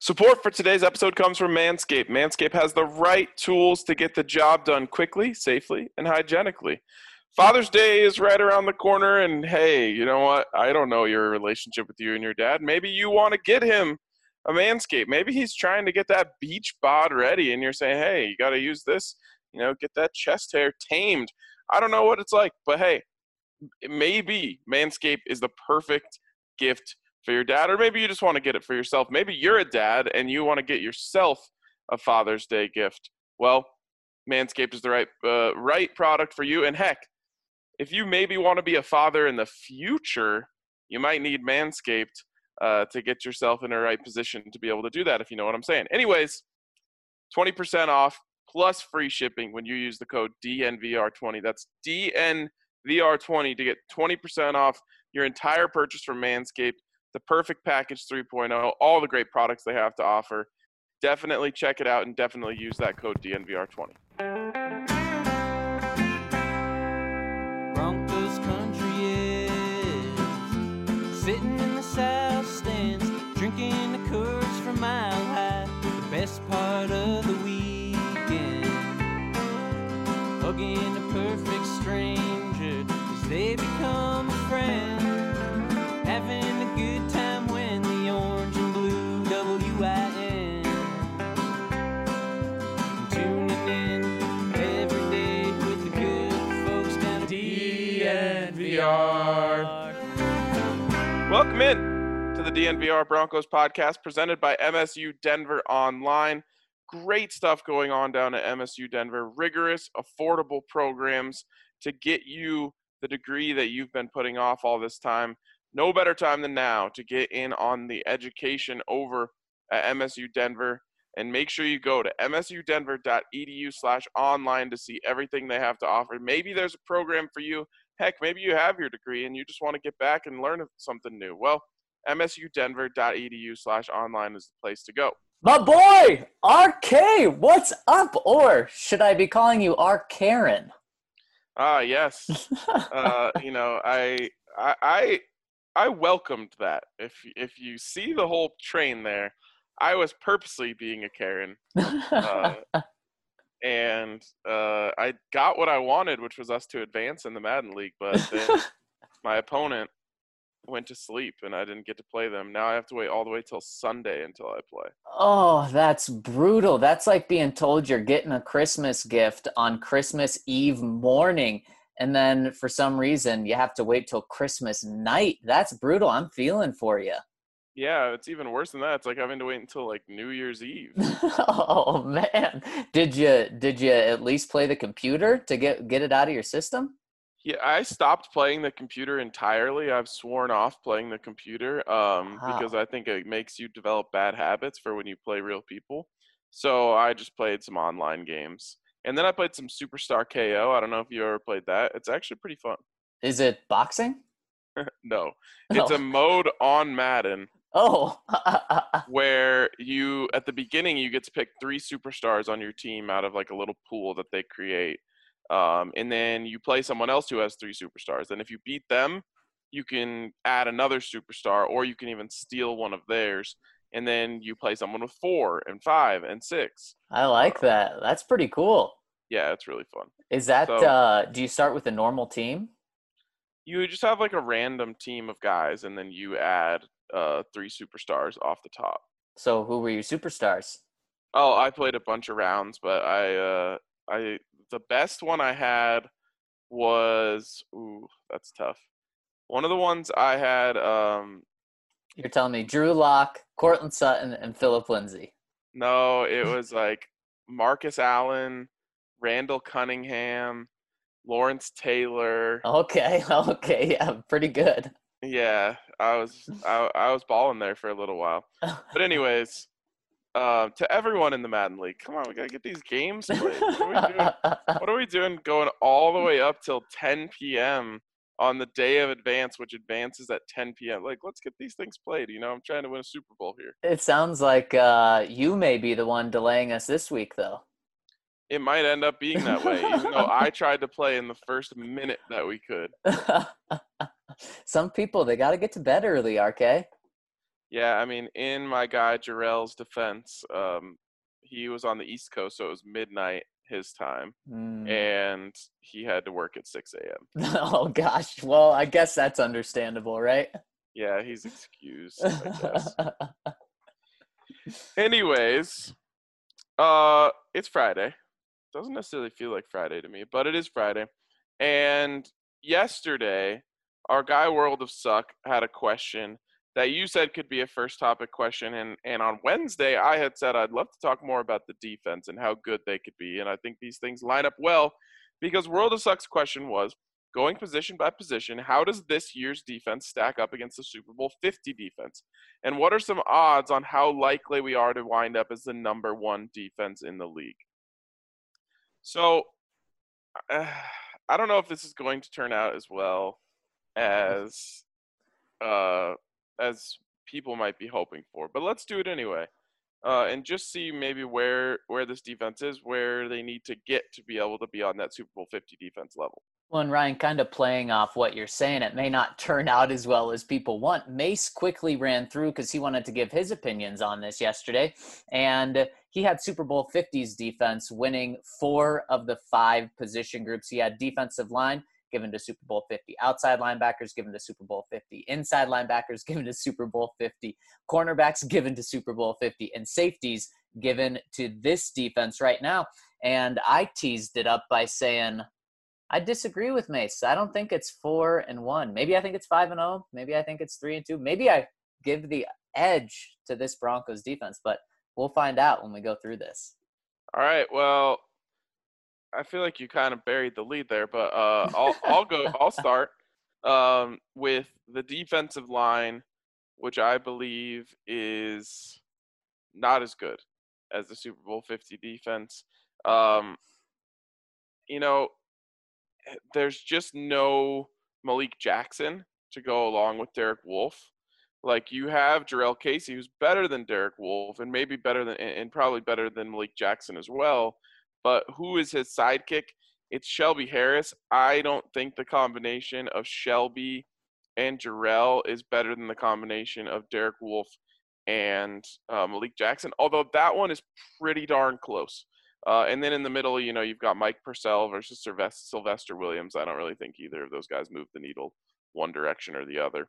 Support for today's episode comes from Manscaped. Manscaped has the right tools to get the job done quickly, safely, and hygienically. Father's Day is right around the corner, and hey, you know what? I don't know your relationship with you and your dad. Maybe you want to get him a Manscaped. Maybe he's trying to get that beach bod ready, and you're saying, hey, you got to use this, get that chest hair tamed. I don't know what it's like, but hey, maybe Manscaped is the perfect gift for your dad, or maybe you just want to get it for yourself. Maybe you're a dad and you want to get yourself a Father's Day gift. Well, Manscaped is the right product for you. And heck, if you maybe want to be a father in the future, you might need Manscaped to get yourself in the right position to be able to do that, if you know what I'm saying. Anyways, 20% off plus free shipping when you use the code DNVR20. That's DNVR20 to get 20% off your entire purchase from Manscaped. The Perfect Package 3.0, all the great products they have to offer. Definitely check it out and definitely use that code DNVR20. Broncos country is sitting in the south stands, drinking the Coors from Mile High. The best part of the weekend, hugging a perfect stranger as they become a friend. Having a good time when the orange and blue WIN. Tuning in every day with the good folks down at DNVR. Welcome in to the DNVR Broncos podcast presented by MSU Denver Online. Great stuff going on down at MSU Denver. Rigorous, affordable programs to get you the degree that you've been putting off all this time. No better time than now to get in on the education over at MSU Denver, and make sure you go to msudenver.edu/online to see everything they have to offer. Maybe there's a program for you. Heck, maybe you have your degree and you just want to get back and learn something new. Well, msudenver.edu/online is the place to go. My boy, RK, what's up? Or should I be calling you R. Karen? Yes. I welcomed that. If you see the whole train there, I was purposely being a Karen. And I got what I wanted, which was us to advance in the Madden League, but then my opponent went to sleep and I didn't get to play them. Now I have to wait all the way till Sunday until I play. Oh, that's brutal. That's like being told you're getting a Christmas gift on Christmas Eve morning, and then for some reason you have to wait till Christmas night. That's brutal. I'm feeling for you. Yeah, it's even worse than that. It's like having to wait until like New Year's Eve. Oh man. Did you at least play the computer to get it out of your system? Yeah, I stopped playing the computer entirely. I've sworn off playing the computer because I think it makes you develop bad habits for when you play real people. So I just played some online games. And then I played some Superstar KO. I don't know if you ever played that. It's actually pretty fun. Is it boxing? No. It's a mode on Madden. Oh. Where at the beginning, you get to pick 3 superstars on your team out of like a little pool that they create. And then you play someone else who has 3 superstars. And if you beat them, you can add another superstar, or you can even steal one of theirs. And then you play someone with 4 and 5 and 6. I like that. That's pretty cool. Yeah, it's really fun. Is that, do you start with a normal team? You just have like a random team of guys, and then you add 3 superstars off the top. So who were your superstars? Oh, I played a bunch of rounds, but the best one I had was, that's tough. One of the ones I had, you're telling me Drew Lock, Courtland Sutton, and Phillip Lindsay. No, it was like Marcus Allen, Randall Cunningham, Lawrence Taylor. Okay, yeah, pretty good. Yeah, I was balling there for a little while. But anyways, to everyone in the Madden League, come on, we gotta get these games played. What are we doing going all the way up till 10 p.m. on the day of advance, which advances at 10 p.m. Like, let's get these things played. I'm trying to win a Super Bowl here. It sounds like you may be the one delaying us this week, though. It might end up being that way, even though I tried to play in the first minute that we could. Some people, they got to get to bed early, RK. Yeah, I mean, in my guy Jarrell's defense, he was on the East Coast, so it was midnight his time, Mm. and he had to work at 6 a.m. Oh gosh. Well, I guess that's understandable, right? Yeah, he's excused, I guess. Anyways, it's Friday. Doesn't necessarily feel like Friday to me, but it is Friday. And yesterday, our guy World of Suck had a question that you said could be a first topic question. And on Wednesday, I had said I'd love to talk more about the defense and how good they could be. And I think these things line up well because World of Suck's question was going position by position, how does this year's defense stack up against the Super Bowl 50 defense? And what are some odds on how likely we are to wind up as the number one defense in the league? So uh, I don't know if this is going to turn out as well as uh, as people might be hoping for, but let's do it anyway, and just see maybe where this defense is, where they need to get to be able to be on that Super Bowl 50 defense level. Well, and Ryan, kind of playing off what you're saying, it may not turn out as well as people want. Mace quickly ran through because he wanted to give his opinions on this yesterday. And he had Super Bowl 50's defense winning 4 of the 5 position groups. He had defensive line given to Super Bowl 50, outside linebackers given to Super Bowl 50, inside linebackers given to Super Bowl 50, cornerbacks given to Super Bowl 50, and safeties given to this defense right now. And I teased it up by saying, I disagree with Mace. I don't think it's 4-1. Maybe I think it's 5-0. Maybe I think it's 3-2. Maybe I give the edge to this Broncos defense, but we'll find out when we go through this. All right. Well, I feel like you kind of buried the lead there, but I'll go. I'll start with the defensive line, which I believe is not as good as the Super Bowl 50 defense. Um, you know, there's just no Malik Jackson to go along with Derek Wolfe. Like you have Jarrell Casey, who's better than Derek Wolfe, and maybe better than, and probably better than Malik Jackson as well. But who is his sidekick? It's Shelby Harris. I don't think the combination of Shelby and Jarrell is better than the combination of Derek Wolfe and Malik Jackson, although that one is pretty darn close. And then in the middle, you've got Mike Purcell versus Sylvester Williams. I don't really think either of those guys move the needle one direction or the other.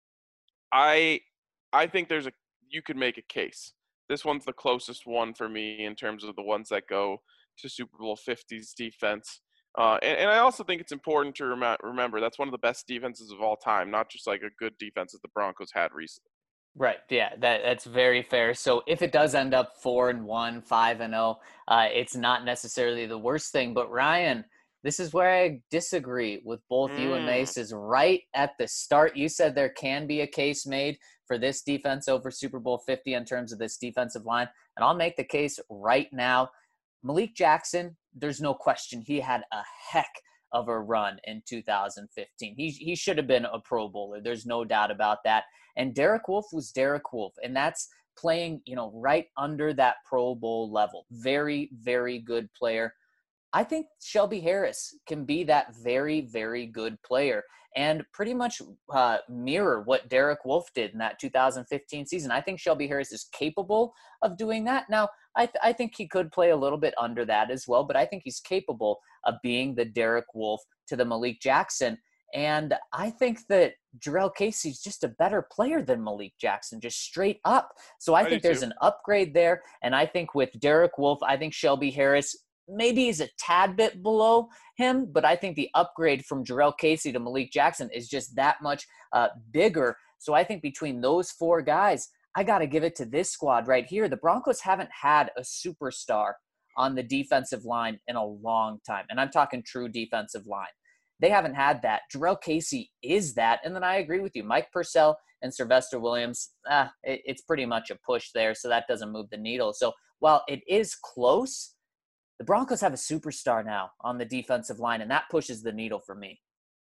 I think you could make a case. This one's the closest one for me in terms of the ones that go to Super Bowl 50's defense. And I also think it's important to remember that's one of the best defenses of all time, not just like a good defense that the Broncos had recently. Right. Yeah, that's very fair. So if it does end up 4-1, 5-0, it's not necessarily the worst thing. But Ryan, this is where I disagree with both you and Mace. Is right at the start. You said there can be a case made for this defense over Super Bowl 50 in terms of this defensive line. And I'll make the case right now. Malik Jackson, there's no question he had a heck of a run in 2015. He should have been a Pro Bowler. There's no doubt about that. And Derek Wolfe was Derek Wolfe, and that's playing, right under that Pro Bowl level. Very, very good player. I think Shelby Harris can be that very, very good player and pretty much mirror what Derek Wolfe did in that 2015 season. I think Shelby Harris is capable of doing that. Now, I think he could play a little bit under that as well, but I think he's capable of being the Derek Wolfe to the Malik Jackson. And I think that Jarrell Casey's just a better player than Malik Jackson, just straight up. So I think there's an upgrade there. And I think with Derek Wolfe, I think Shelby Harris maybe is a tad bit below him, but I think the upgrade from Jarrell Casey to Malik Jackson is just that much bigger. So I think between those 4 guys, I got to give it to this squad right here. The Broncos haven't had a superstar on the defensive line in a long time. And I'm talking true defensive line. They haven't had that. Jarrell Casey is that. And then I agree with you. Mike Purcell and Sylvester Williams, it's pretty much a push there, so that doesn't move the needle. So while it is close, the Broncos have a superstar now on the defensive line, and that pushes the needle for me.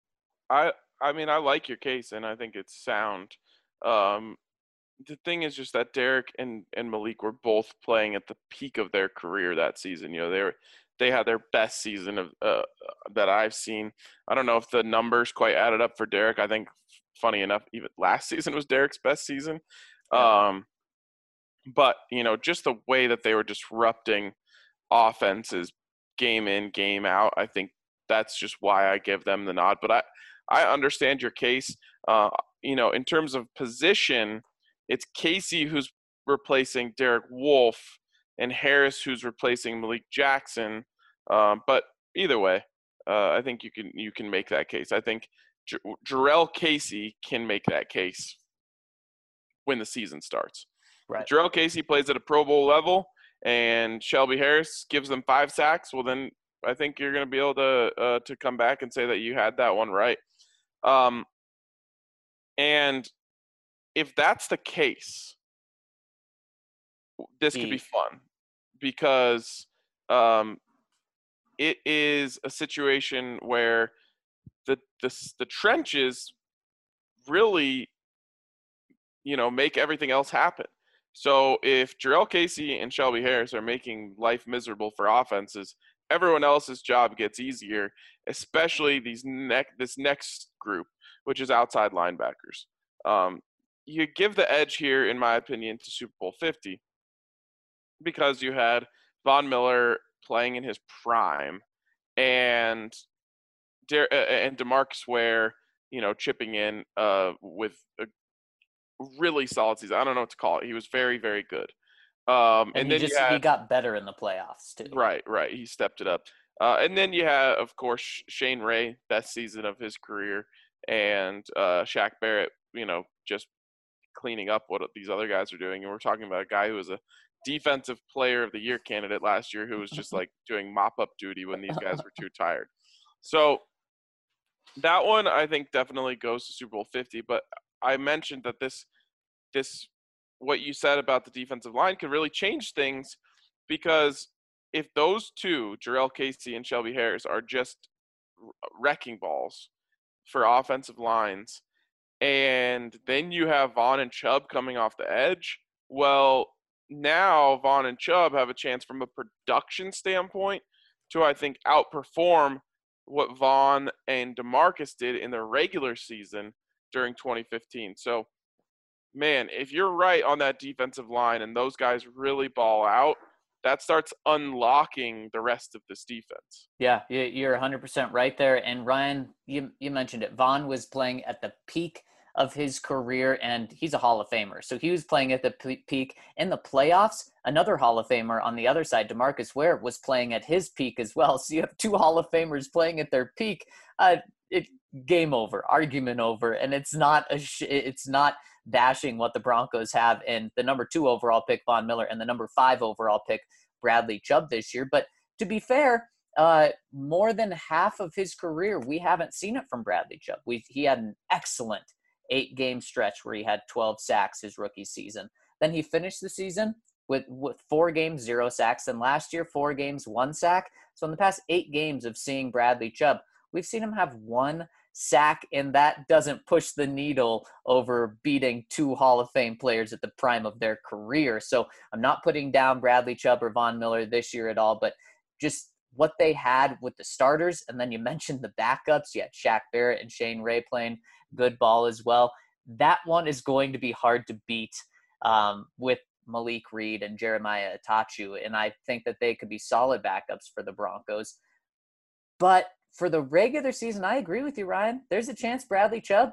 I mean, I like your case, and I think it's sound. The thing is just that Derek and Malik were both playing at the peak of their career that season. They had their best season of that I've seen. I don't know if the numbers quite added up for Derek. I think, funny enough, even last season was Derek's best season. But, just the way that they were disrupting offenses game in, game out, I think that's just why I give them the nod. But I understand your case. In terms of position, it's Casey who's replacing Derek Wolfe and Harris who's replacing Malik Jackson. But either way, I think you can make that case. I think Jarrell Casey can make that case when the season starts. Right. If Jarrell Casey plays at a Pro Bowl level and Shelby Harris gives them 5 sacks, well then I think you're going to be able to come back and say that you had that one right. And if that's the case, this could be fun because it is a situation where the trenches really, make everything else happen. So if Jarrell Casey and Shelby Harris are making life miserable for offenses, everyone else's job gets easier, especially this next group, which is outside linebackers. You give the edge here, in my opinion, to Super Bowl 50 because you had Von Miller playing in his prime and DeMarcus Ware, chipping in with a really solid season. I don't know what to call it. He was very, very good. And then he got better in the playoffs too. Right. He stepped it up. And then you had, of course, Shane Ray, best season of his career, and Shaq Barrett, just cleaning up what these other guys are doing. And we're talking about a guy who was a defensive player of the year candidate last year who was just like doing mop-up duty when these guys were too tired. So that one, I think, definitely goes to Super Bowl 50. But I mentioned that this what you said about the defensive line could really change things because if those two, Jarrell Casey and Shelby Harris, are just wrecking balls for offensive lines, and then you have Vaughn and Chubb coming off the edge, well, now Vaughn and Chubb have a chance from a production standpoint to, I think, outperform what Vaughn and DeMarcus did in the regular season during 2015. So, man, if you're right on that defensive line and those guys really ball out, that starts unlocking the rest of this defense. Yeah, you're 100% right there. And Ryan, you mentioned it. Vaughn was playing at the peak of his career, and he's a Hall of Famer. So he was playing at the peak in the playoffs. Another Hall of Famer on the other side, DeMarcus Ware, was playing at his peak as well. So you have 2 Hall of Famers playing at their peak. Game over, argument over, and it's not dashing what the Broncos have in the number 2 overall pick, Von Miller, and the number 5 overall pick, Bradley Chubb, this year. But to be fair, more than half of his career, we haven't seen it from Bradley Chubb. He had an excellent 8-game stretch where he had 12 sacks his rookie season. Then he finished the season with 4 games, 0 sacks. And last year, 4 games, 1 sack. So in the past 8 games of seeing Bradley Chubb, we've seen him have 1 sack, and that doesn't push the needle over beating 2 Hall of Fame players at the prime of their career. So I'm not putting down Bradley Chubb or Von Miller this year at all, but just what they had with the starters. And then you mentioned the backups. You had Shaq Barrett and Shane Ray playing good ball as well. That one is going to be hard to beat with Malik Reed and Jeremiah Itachu. And I think that they could be solid backups for the Broncos. But for the regular season, I agree with you, Ryan. There's a chance Bradley Chubb,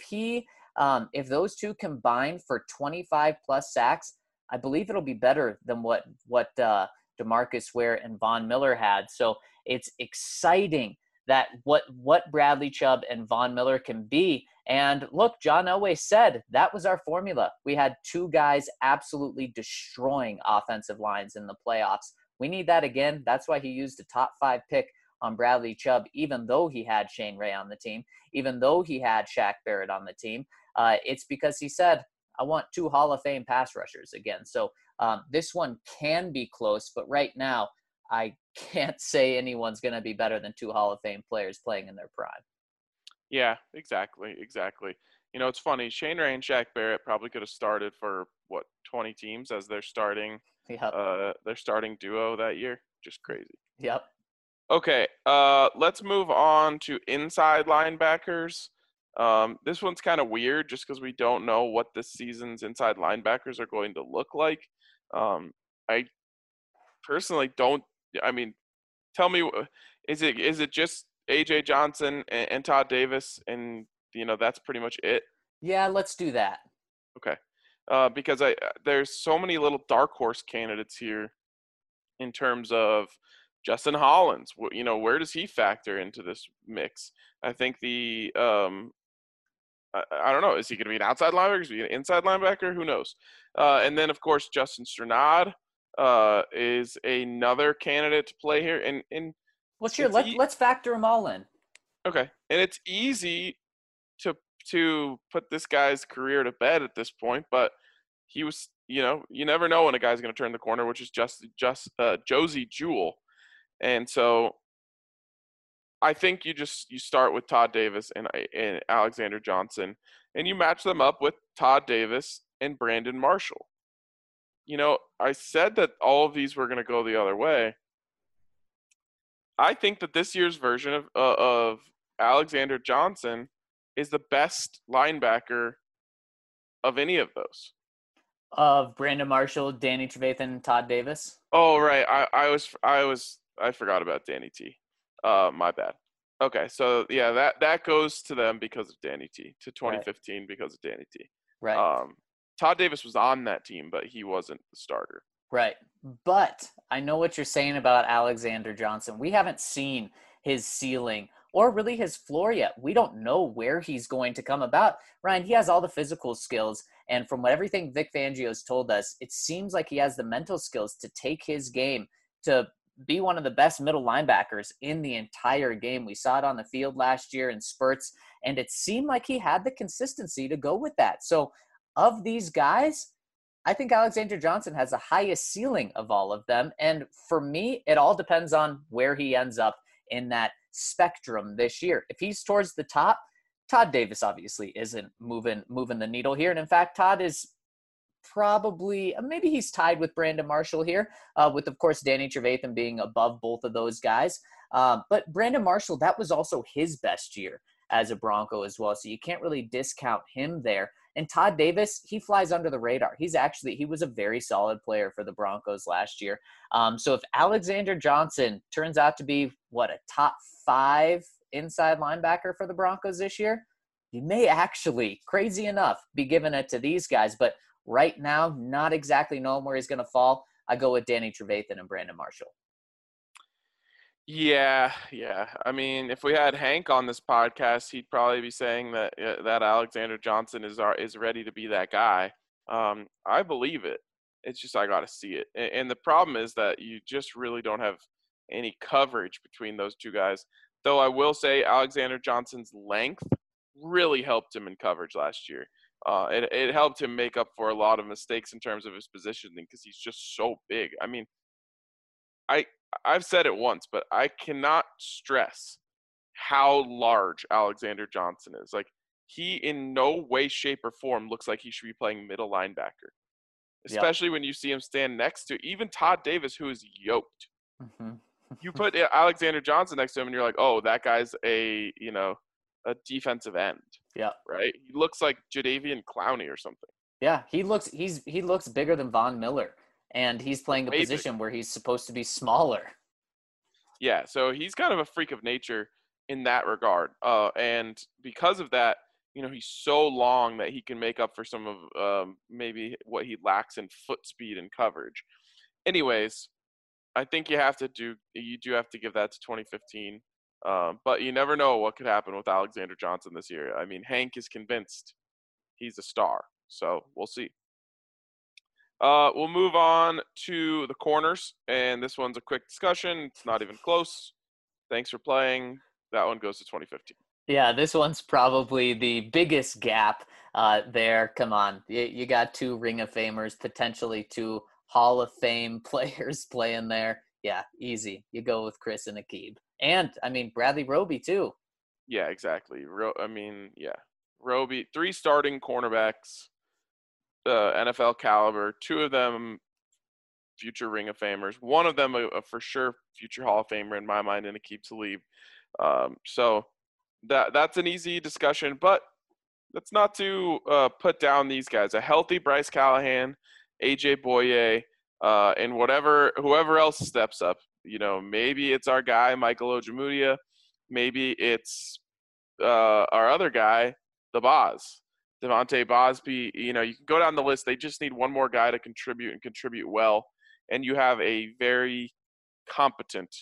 if those two combine for 25 plus sacks, I believe it'll be better than what DeMarcus Ware and Von Miller had. So it's exciting that what Bradley Chubb and Von Miller can be. And look, John Elway said that was our formula. We had 2 guys absolutely destroying offensive lines in the playoffs. We need that again. That's why he used a top 5 pick on Bradley Chubb, even though he had Shane Ray on the team, even though he had Shaq Barrett on the team. It's because he said, I want 2 Hall of Fame pass rushers again. So this one can be close, but right now I can't say anyone's going to be better than 2 Hall of Fame players playing in their prime. Yeah, exactly. It's funny. Shane Ray and Shaq Barrett probably could have started for 20 teams as their starting duo that year. Just crazy. Yep. Okay, let's move on to inside linebackers. This one's kind of weird just because we don't know what this season's inside linebackers are going to look like. I personally don't. I mean, tell me, is it just AJ Johnson and Todd Davis, and that's pretty much it? Yeah, let's do that. Okay, because there's so many little dark horse candidates here in terms of Justin Hollins. Where does he factor into this mix? I think I don't know. Is he going to be an outside linebacker? Is he an inside linebacker? Who knows? And then, of course, Justin Strnad is another candidate to play here. And let's factor them all in. Okay, and it's easy to put this guy's career to bed at this point, but he was, you never know when a guy's going to turn the corner, which is just Josey Jewell, and so I think you start with Todd Davis and Alexander Johnson, and you match them up with Todd Davis and Brandon Marshall. I said that all of these were going to go the other way. I think that this year's version of Alexander Johnson is the best linebacker of any of those. Of Brandon Marshall, Danny Trevathan, Todd Davis. Oh, right. I forgot about Danny T. My bad. Okay, so yeah, that goes to them because of Danny T. To 2015 right. Because of Danny T. Right. Todd Davis was on that team, but he wasn't the starter. Right. But I know what you're saying about Alexander Johnson. We haven't seen his ceiling or really his floor yet. We don't know where he's going to come about. Ryan, he has all the physical skills. And from everything Vic Fangio's told us, it seems like he has the mental skills to take his game to be one of the best middle linebackers in the entire game. We saw it on the field last year in spurts, and it seemed like he had the consistency to go with that. So of these guys, I think Alexander Johnson has the highest ceiling of all of them. And for me, it all depends on where he ends up in that spectrum this year. If he's towards the top, Todd Davis obviously isn't moving the needle here. And in fact, Todd is probably, maybe he's tied with Brandon Marshall here, with, of course, Danny Trevathan being above both of those guys. But Brandon Marshall, that was also his best year as a Bronco as well. So you can't really discount him there. And Todd Davis, he flies under the radar. He was a very solid player for the Broncos last year. So if Alexander Johnson turns out to be, a top 5 inside linebacker for the Broncos this year, you may actually, crazy enough, be giving it to these guys. But right now, not exactly knowing where he's going to fall, I go with Danny Trevathan and Brandon Marshall. Yeah. I mean, if we had Hank on this podcast, he'd probably be saying that Alexander Johnson is ready to be that guy. I believe it. It's just I got to see it. And the problem is that you just really don't have any coverage between those two guys. Though I will say Alexander Johnson's length really helped him in coverage last year. It helped him make up for a lot of mistakes in terms of his positioning because he's just so big. I mean, I've said it once, but I cannot stress how large Alexander Johnson is. Like, he in no way, shape, or form looks like he should be playing middle linebacker, especially when you see him stand next to even Todd Davis, who is yoked. Mm-hmm. You put Alexander Johnson next to him, and you're like, oh, that guy's a defensive end. Yeah. Right? He looks like Jadeveon Clowney or something. Yeah, he looks bigger than Von Miller. And he's playing a position where he's supposed to be smaller. Yeah, so he's kind of a freak of nature in that regard. And because of that, he's so long that he can make up for some of maybe what he lacks in foot speed and coverage. Anyways, I think you do have to give that to 2015. But you never know what could happen with Alexander Johnson this year. I mean, Hank is convinced he's a star. So we'll see. We'll move on to the corners, and this one's a quick discussion. It's not even close. Thanks for playing. That one goes to 2015. Yeah, this one's probably the biggest gap there. Come on. You got 2 Ring of Famers, potentially 2 Hall of Fame players playing there. Yeah, easy. You go with Chris and Aqib. And, Bradley Roby, too. Yeah, exactly. Roby, 3 starting cornerbacks. NFL caliber, 2 of them future Ring of Famers, 1 of them a for sure future Hall of Famer in my mind, and Aqib Talib. So That's an easy discussion, but that's not to put down these guys. A healthy Bryce Callahan, AJ Boye, and whoever else steps up. Maybe it's our guy Michael Ojemudia, maybe it's our other guy, the Boz, Devontae Bosby. You can go down the list. They just need one more guy to contribute and contribute well, and you have a very competent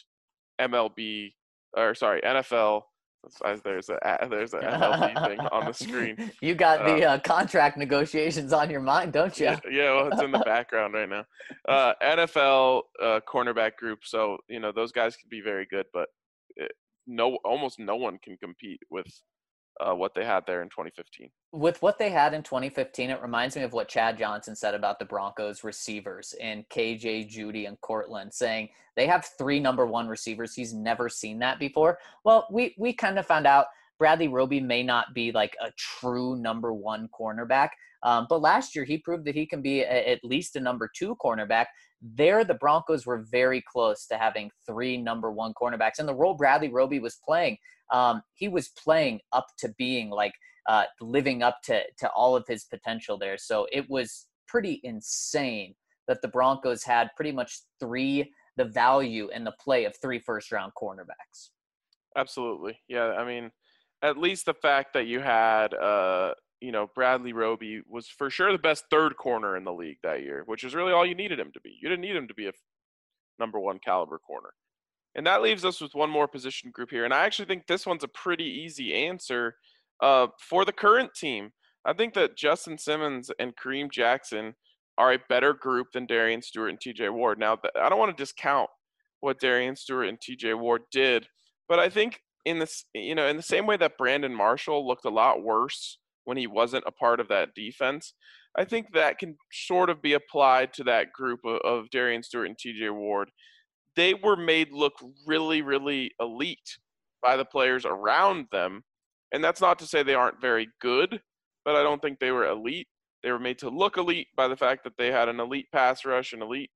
NFL. There's a MLB thing on the screen. You got the contract negotiations on your mind, don't you? Yeah, well, it's in the background right now. NFL cornerback group. So those guys can be very good, but almost no one can compete with what they had there in 2015. With what they had in 2015, it reminds me of what Chad Johnson said about the Broncos receivers in KJ, Judy, and Cortland, saying they have 3 number 1 receivers. He's never seen that before. Well, we kind of found out Bradley Roby may not be like a true number 1 cornerback, but last year he proved that he can be at least a number 2 cornerback. There, the Broncos were very close to having 3 number 1 cornerbacks. And the role Bradley Roby was playing, he was playing up to being like living up to all of his potential there. So it was pretty insane that the Broncos had pretty much the value and the play of 3 first-round cornerbacks. Absolutely. Yeah, I mean, at least the fact that you had Bradley Roby was for sure the best third corner in the league that year, which is really all you needed him to be. You didn't need him to be a number 1 caliber corner. And that leaves us with one more position group here. And I actually think this one's a pretty easy answer for the current team. I think that Justin Simmons and Kareem Jackson are a better group than Darian Stewart and TJ Ward. Now, I don't want to discount what Darian Stewart and TJ Ward did, but I think in the same way that Brandon Marshall looked a lot worse when he wasn't a part of that defense, I think that can sort of be applied to that group of Darian Stewart and TJ Ward. They were made look really, really elite by the players around them. And that's not to say they aren't very good, but I don't think they were elite. They were made to look elite by the fact that they had an elite pass rush, an elite,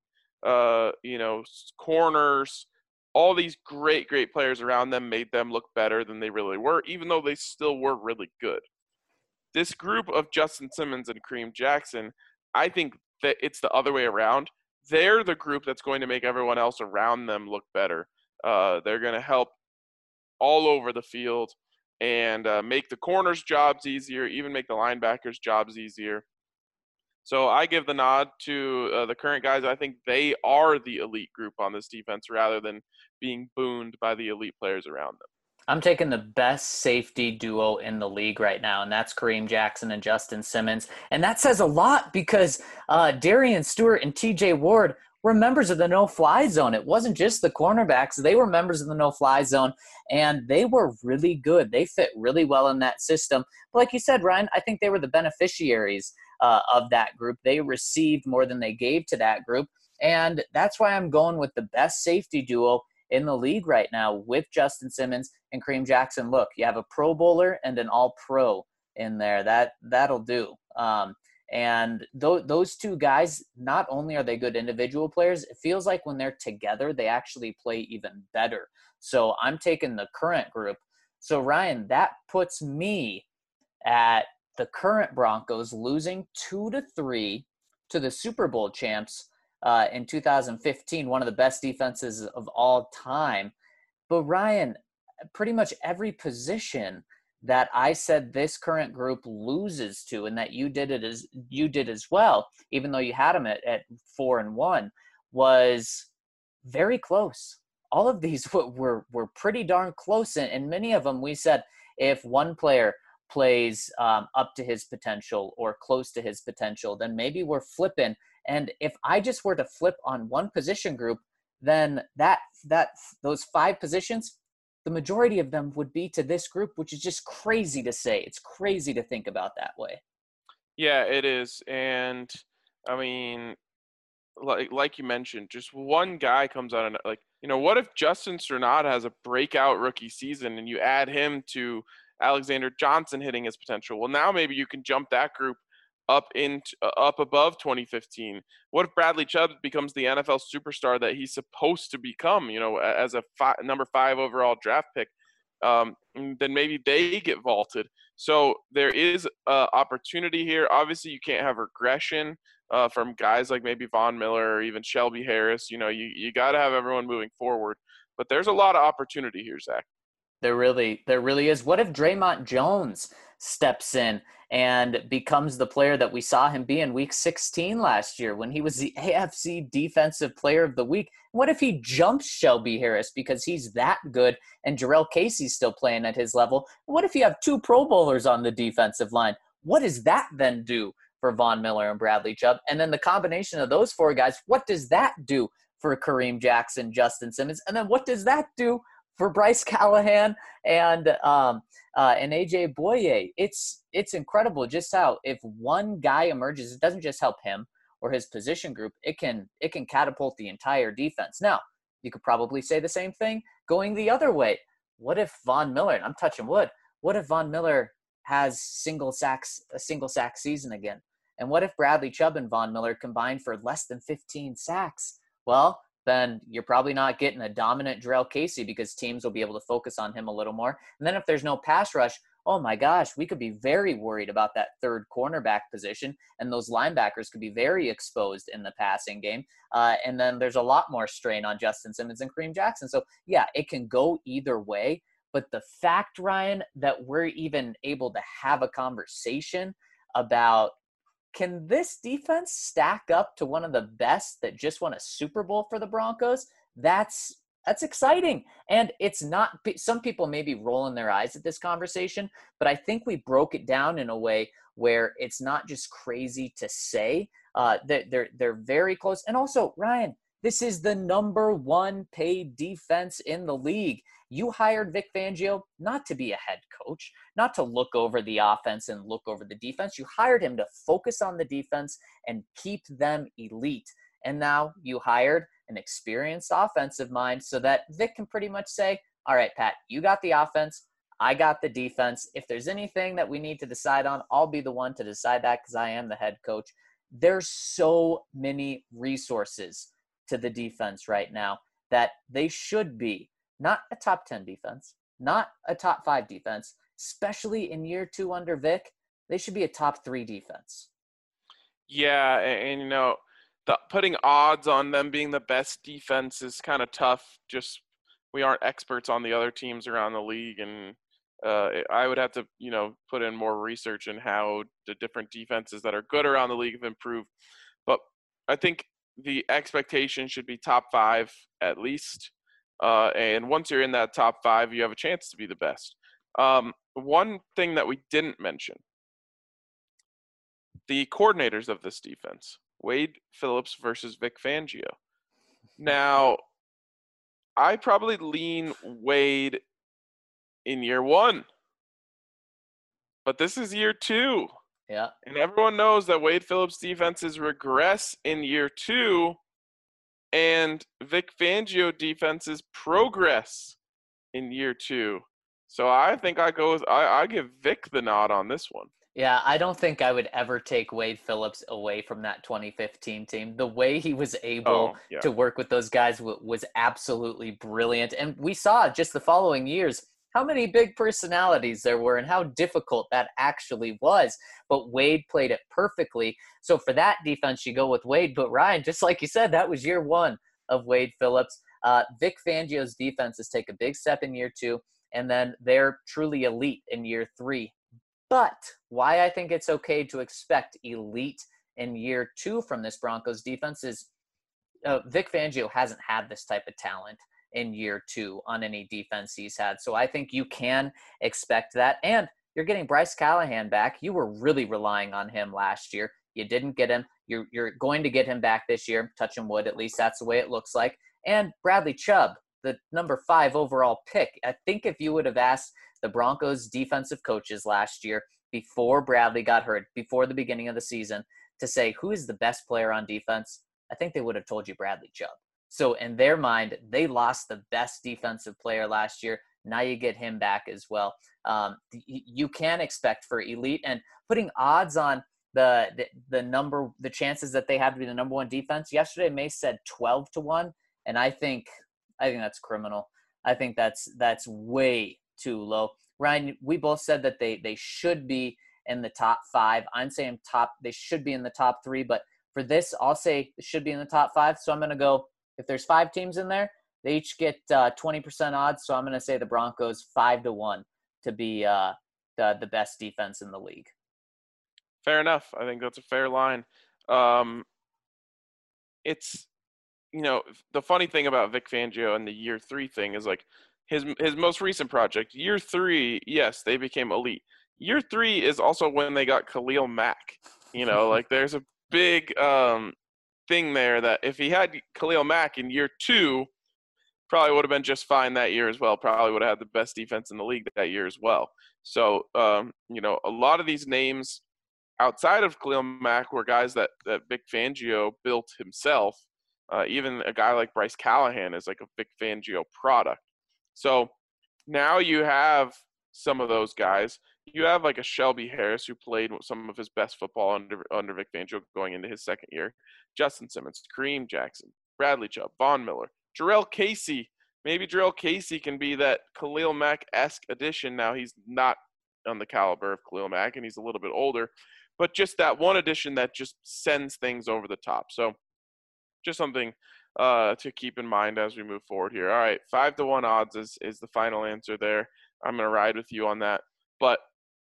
corners. All these great, great players around them made them look better than they really were, even though they still were really good. This group of Justin Simmons and Kareem Jackson, I think that it's the other way around. They're the group that's going to make everyone else around them look better. They're going to help all over the field and make the corners' jobs easier, even make the linebackers' jobs easier. So I give the nod to the current guys. I think they are the elite group on this defense rather than being booned by the elite players around them. I'm taking the best safety duo in the league right now, and that's Kareem Jackson and Justin Simmons. And that says a lot because Darian Stewart and TJ Ward were members of the no-fly zone. It wasn't just the cornerbacks. They were members of the no-fly zone, and they were really good. They fit really well in that system. But like you said, Ryan, I think they were the beneficiaries of that group. They received more than they gave to that group, and that's why I'm going with the best safety duo in the league right now with Justin Simmons and Kareem Jackson. Look, you have a Pro Bowler and an All-Pro in there. That'll do. And those 2 guys, not only are they good individual players, it feels like when they're together, they actually play even better. So I'm taking the current group. So Ryan, that puts me at the current Broncos losing 2-3 to the Super Bowl champs in 2015, one of the best defenses of all time. But Ryan, pretty much every position that I said this current group loses to, and that you did as well, even though you had them at 4-1, was very close. All of these were pretty darn close, and many of them we said if one player plays up to his potential or close to his potential, then maybe we're flipping. And if I just were to flip on one position group, then those 5 positions, the majority of them would be to this group, which is just crazy to say. It's crazy to think about that way. Yeah, it is. And I mean, like you mentioned, just one guy comes out and what if Justin Strnad has a breakout rookie season and you add him to Alexander Johnson hitting his potential? Well, now maybe you can jump that group up above 2015. What if Bradley Chubb becomes the NFL superstar that he's supposed to become, as a number 5 overall draft pick? then maybe they get vaulted. So there is opportunity here. Obviously, you can't have regression from guys like maybe Von Miller or even Shelby Harris. You got to have everyone moving forward. But there's a lot of opportunity here, Zach. There really is. What if Draymond Jones steps in and becomes the player that we saw him be in Week 16 last year when he was the AFC Defensive Player of the Week? What if he jumps Shelby Harris because he's that good and Jarrell Casey's still playing at his level? What if you have 2 Pro Bowlers on the defensive line? What does that then do for Von Miller and Bradley Chubb? And then the combination of those 4 guys, what does that do for Kareem Jackson, Justin Simmons? And then what does that do for Bryce Callahan and AJ Boye? It's incredible just how if one guy emerges, it doesn't just help him or his position group. It can catapult the entire defense. Now, you could probably say the same thing going the other way. What if Von Miller, and I'm touching wood, what if Von Miller has a single sack season again? And what if Bradley Chubb and Von Miller combine for less than 15 sacks? Well, then you're probably not getting a dominant Jarrell Casey because teams will be able to focus on him a little more. And then if there's no pass rush, oh my gosh, we could be very worried about that third cornerback position, and those linebackers could be very exposed in the passing game. And then there's a lot more strain on Justin Simmons and Kareem Jackson. So yeah, it can go either way. But the fact, Ryan, that we're even able to have a conversation about, can this defense stack up to one of the best that just won a Super Bowl for the Broncos? That's exciting. And it's not, some people may be rolling their eyes at this conversation, but I think we broke it down in a way where it's not just crazy to say. They're very close. And also, Ryan, this is the number 1 paid defense in the league. You hired Vic Fangio not to be a head coach, not to look over the offense and look over the defense. You hired him to focus on the defense and keep them elite. And now you hired an experienced offensive mind so that Vic can pretty much say, all right, Pat, you got the offense, I got the defense. If there's anything that we need to decide on, I'll be the one to decide that because I am the head coach. There's so many resources to the defense right now that they should be not a top 10 defense, not a top 5 defense, especially in year 2 under Vic. They should be a top 3 defense. Yeah, and putting odds on them being the best defense is kind of tough. Just we aren't experts on the other teams around the league, and I would have to put in more research in how the different defenses that are good around the league have improved. But I think the expectation should be top 5 at least. And once you're in that top 5, you have a chance to be the best. One thing that we didn't mention, the coordinators of this defense, Wade Phillips versus Vic Fangio. Now, I probably lean Wade in year 1, but this is year 2. Yeah. And everyone knows that Wade Phillips' defenses regress in year 2, and Vic Fangio defenses progress in year 2. So I think I give Vic the nod on this one. Yeah, I don't think I would ever take Wade Phillips away from that 2015 team. The way he was able to work with those guys was absolutely brilliant. And we saw just the following years how many big personalities there were and how difficult that actually was. But Wade played it perfectly. So for that defense, you go with Wade. But Ryan, just like you said, that was year 1 of Wade Phillips. Vic Fangio's defenses take a big step in year 2, and then they're truly elite in year 3. But why I think it's okay to expect elite in year 2 from this Broncos defense is Vic Fangio hasn't had this type of talent in year 2 on any defense he's had. So I think you can expect that. And you're getting Bryce Callahan back. You were really relying on him last year. You didn't get him. You're going to get him back this year. Touching wood, at least that's the way it looks like. And Bradley Chubb, the number 5 overall pick. I think if you would have asked the Broncos defensive coaches last year, before Bradley got hurt, before the beginning of the season, to say who is the best player on defense, I think they would have told you Bradley Chubb. So in their mind, they lost the best defensive player last year. Now you get him back as well. You can expect for elite, and putting odds on the chances that they have to be the number 1 defense. Yesterday, Mace said 12-1, and I think that's criminal. I think that's way too low. Ryan, we both said that they should be in the top 5. I'm saying they should be in the top 3, but for this, I'll say it should be in the top 5. So I'm going to go, if there's 5 teams in there, they each get 20% odds. So I'm going to say the Broncos 5-1 to be the best defense in the league. Fair enough. I think that's a fair line. It's, the funny thing about Vic Fangio and the year 3 thing is like his most recent project, year 3, yes, they became elite. Year 3 is also when they got Khalil Mack. Like there's a big thing there that if he had Khalil Mack in year 2, probably would have been just fine that year as well. Probably would have had the best defense in the league that year as well. So, a lot of these names outside of Khalil Mack were guys that Vic Fangio built himself. Even a guy like Bryce Callahan is like a Vic Fangio product. So now you have some of those guys. You have like a Shelby Harris who played some of his best football under Vic Fangio going into his second year. Justin Simmons, Kareem Jackson, Bradley Chubb, Von Miller, Jarrell Casey. Maybe Jarrell Casey can be that Khalil Mack-esque addition. Now he's not on the caliber of Khalil Mack, and he's a little bit older. But just that one addition that just sends things over the top. So just something to keep in mind as we move forward here. All right, 5-1 odds is the final answer there. I'm going to ride with you on that. But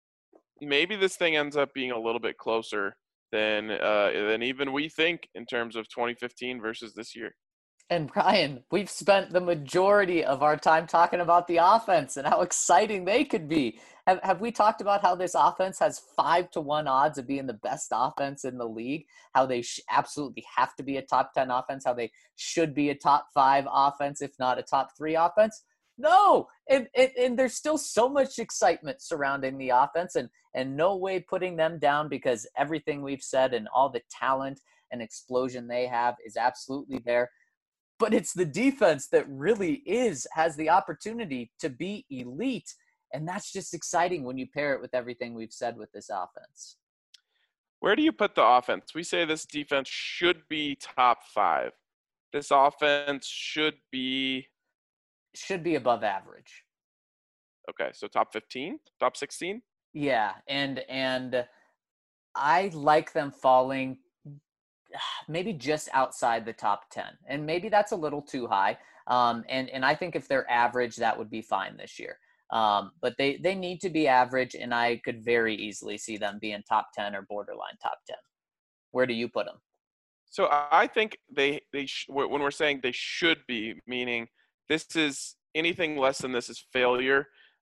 maybe this thing ends up being a little bit closer than even we think in terms of 2015 versus this year. And Brian, we've spent the majority of our time talking about the offense and how exciting they could be. Have we talked about how this offense has 5-1 odds of being the best offense in the league? How they absolutely have to be a top 10 offense? How they should be a top 5 offense, if not a top 3 offense? No, and there's still so much excitement surrounding the offense, and no way putting them down because everything we've said and all the talent and explosion they have is absolutely there. But it's the defense that really has the opportunity to be elite. And that's just exciting when you pair it with everything we've said with this offense. Where do you put the offense? We say this defense should be top 5. This offense should be above average. Okay, so top 15, top 16? Yeah, and I like them falling maybe just outside the top 10. And maybe that's a little too high. And I think if they're average, that would be fine this year. But they need to be average, and I could very easily see them being top 10 or borderline top 10. Where do you put them? So I think when we're saying they should be, meaning this is anything less than this is failure.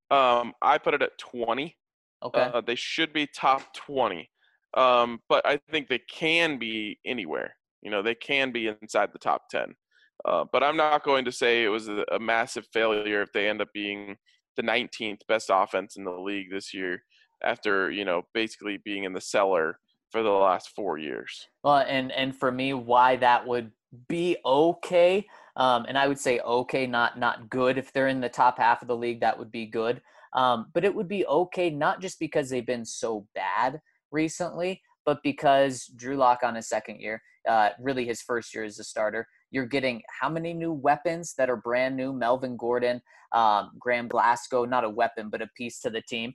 I put it at 20. Okay. They should be top 20. But I think they can be anywhere. They can be inside the top 10. But I'm not going to say it was a massive failure if they end up being the 19th best offense in the league this year after, basically being in the cellar for the last 4 years. Well, and for me, why that would be okay, and I would say okay, not good. If they're in the top half of the league, that would be good. But it would be okay, not just because they've been so bad recently, but because Drew Lock on his second year, really his first year as a starter, you're getting how many new weapons that are brand new? Melvin Gordon, Graham Glasgow, not a weapon, but a piece to the team.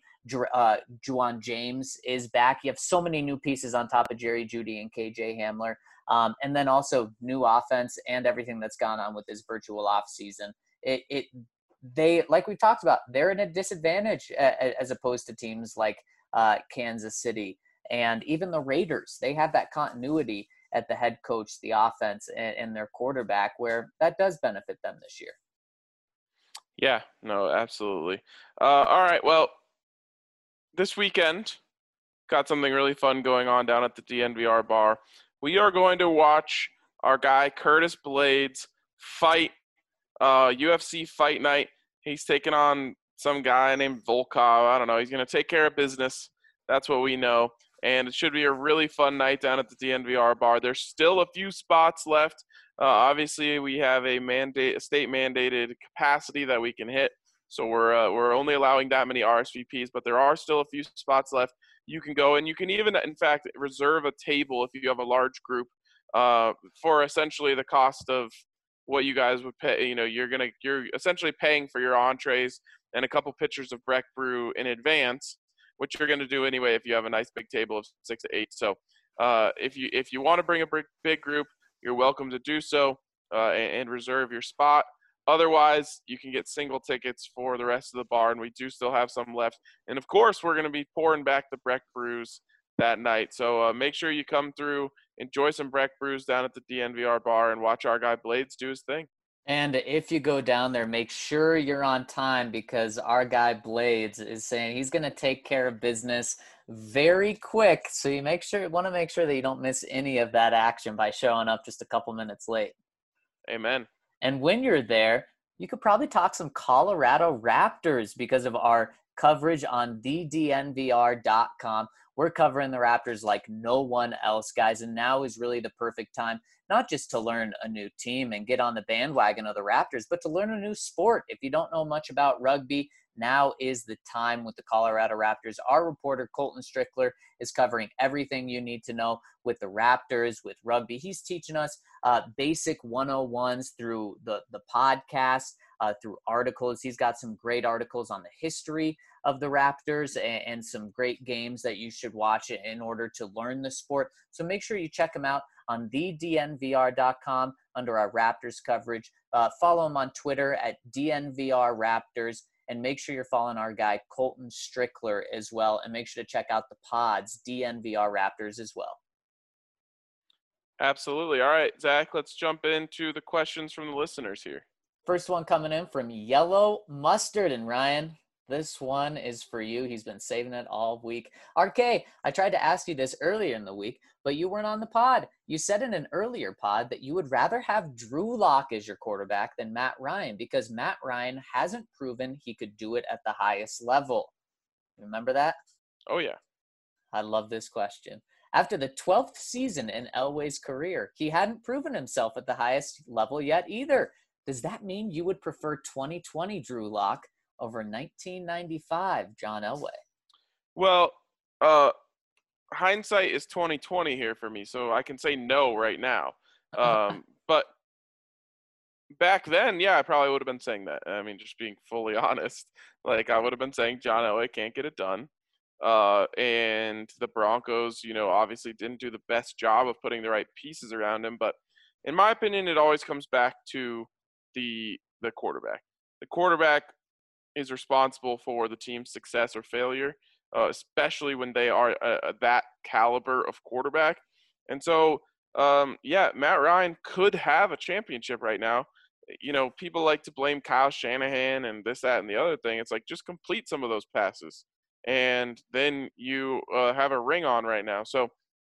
Juwan James is back. You have so many new pieces on top of Jerry Jeudy and KJ Hamler. And then also new offense and everything that's gone on with this virtual off season. They, like we talked about, they're in a disadvantage as opposed to teams like Kansas City and even the Raiders. They have that continuity at the head coach, the offense, and their quarterback, where that does benefit them this year. Yeah, no, absolutely. All right, well, this weekend, got something really fun going on down at the DNVR bar. We are going to watch our guy Curtis Blades fight UFC Fight Night. He's taking on some guy named Volkov. I don't know. He's going to take care of business. That's what we know. And it should be a really fun night down at the DNVR bar. There's still a few spots left. Obviously, we have a state-mandated capacity that we can hit. So we're only allowing that many RSVPs, but there are still a few spots left. You can go, and you can even, in fact, reserve a table if you have a large group for essentially the cost of what you guys would pay. You're essentially paying for your entrees and a couple pitchers of Breck Brew in advance, which you're going to do anyway if you have a nice big table of 6 to 8. So if you want to bring a big group, you're welcome to do so and reserve your spot. Otherwise, you can get single tickets for the rest of the bar, and we do still have some left. And, of course, we're going to be pouring back the Breck Brews that night. So make sure you come through, enjoy some Breck Brews down at the DNVR bar, and watch our guy Blades do his thing. And if you go down there, make sure you're on time because our guy Blades is saying he's going to take care of business very quick. So you want to make sure that you don't miss any of that action by showing up just a couple minutes late. Amen. And when you're there, you could probably talk some Colorado Raptors because of our coverage on thednvr.com. We're covering the Raptors like no one else, guys. And now is really the perfect time, not just to learn a new team and get on the bandwagon of the Raptors, but to learn a new sport. If you don't know much about rugby, now is the time with the Colorado Raptors. Our reporter, Colton Strickler, is covering everything you need to know with the Raptors, with rugby. He's teaching us basic 101s through the podcast, through articles. He's got some great articles on the history of the Raptors and some great games that you should watch in order to learn the sport. So make sure you check him out on thednvr.com under our Raptors coverage. Follow him on Twitter at DNVR and make sure you're following our guy Colton Strickler as well. And make sure to check out the pods, DNVR Raptors as well. Absolutely. All right, Zach, let's jump into the questions from the listeners here. First one coming in from Yellow Mustard. And Ryan, this one is for you. He's been saving it all week. RK, I tried to ask you this earlier in the week, but you weren't on the pod. You said in an earlier pod that you would rather have Drew Lock as your quarterback than Matt Ryan because Matt Ryan hasn't proven he could do it at the highest level. Remember that? Oh, yeah. I love this question. After the 12th season in Elway's career, he hadn't proven himself at the highest level yet either. Does that mean you would prefer 2020 Drew Lock over 1995 John Elway? Well, hindsight is 2020 here for me, so I can say no right now. But back then, yeah, I probably would have been saying that. I mean, just being fully honest, like I would have been saying John Elway can't get it done. And the Broncos, obviously didn't do the best job of putting the right pieces around him. But in my opinion, it always comes back to the quarterback. The quarterback is responsible for the team's success or failure, especially when they are that caliber of quarterback. And so, Matt Ryan could have a championship right now. People like to blame Kyle Shanahan and this, that, and the other thing. It's like, just complete some of those passes, and then you have a ring on right now. So,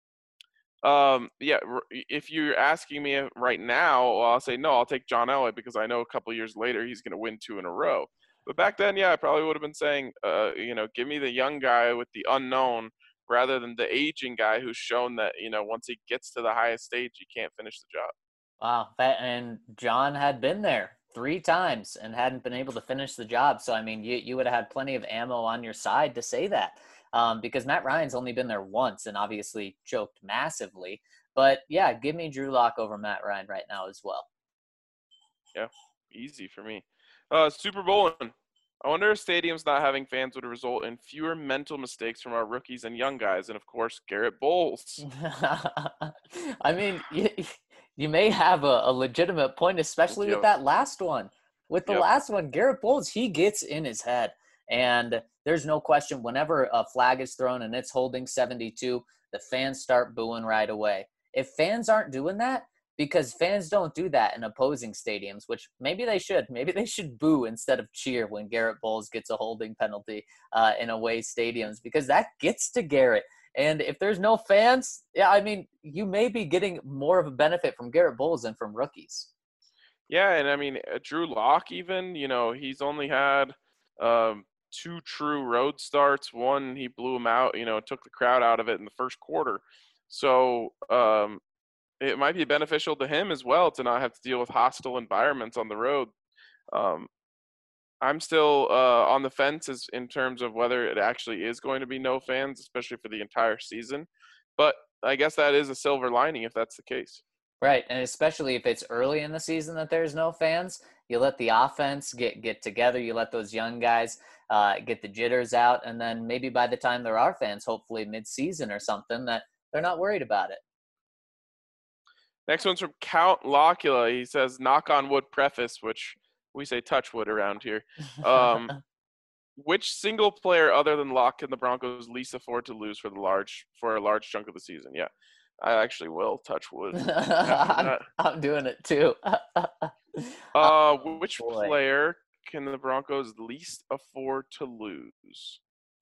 if you're asking me right now, well, I'll say no, I'll take John Elway because I know a couple years later he's going to win 2 in a row. But back then, I probably would have been saying, give me the young guy with the unknown rather than the aging guy who's shown that, once he gets to the highest stage, he can't finish the job. Wow. And John had been there 3 times and hadn't been able to finish the job. So, I mean, you would have had plenty of ammo on your side to say that because Matt Ryan's only been there once and obviously choked massively. But, yeah, give me Drew Lock over Matt Ryan right now as well. Yeah, easy for me. Super Bowling. I wonder if stadiums not having fans would result in fewer mental mistakes from our rookies and young guys, and, of course, Garrett Bowles. I mean, you may have a legitimate point, especially with that last one. With the last one, Garrett Bowles, he gets in his head. And there's no question, whenever a flag is thrown and it's holding 72, the fans start booing right away. If fans aren't doing that, because fans don't do that in opposing stadiums, which maybe they should. Maybe they should boo instead of cheer when Garrett Bowles gets a holding penalty in away stadiums, because that gets to Garrett. And if there's no fans, I mean, you may be getting more of a benefit from Garrett Bowles than from rookies. Yeah, and I mean, Drew Lock even, he's only had 2 true road starts. One, he blew him out, took the crowd out of it in the first quarter. So, it might be beneficial to him as well to not have to deal with hostile environments on the road. I'm still on the fence in terms of whether it actually is going to be no fans, especially for the entire season. But I guess that is a silver lining if that's the case. Right, and especially if it's early in the season that there's no fans, you let the offense get together. You let those young guys get the jitters out, and then maybe by the time there are fans, hopefully mid-season or something, that they're not worried about it. Next one's from Count Locula. He says, "Knock on wood preface," which we say touch wood around here. Which single player other than Locke can the Broncos least afford to lose for a large chunk of the season? Yeah, I actually will touch wood. I'm doing it too. Which Boy. player can the Broncos least afford to lose?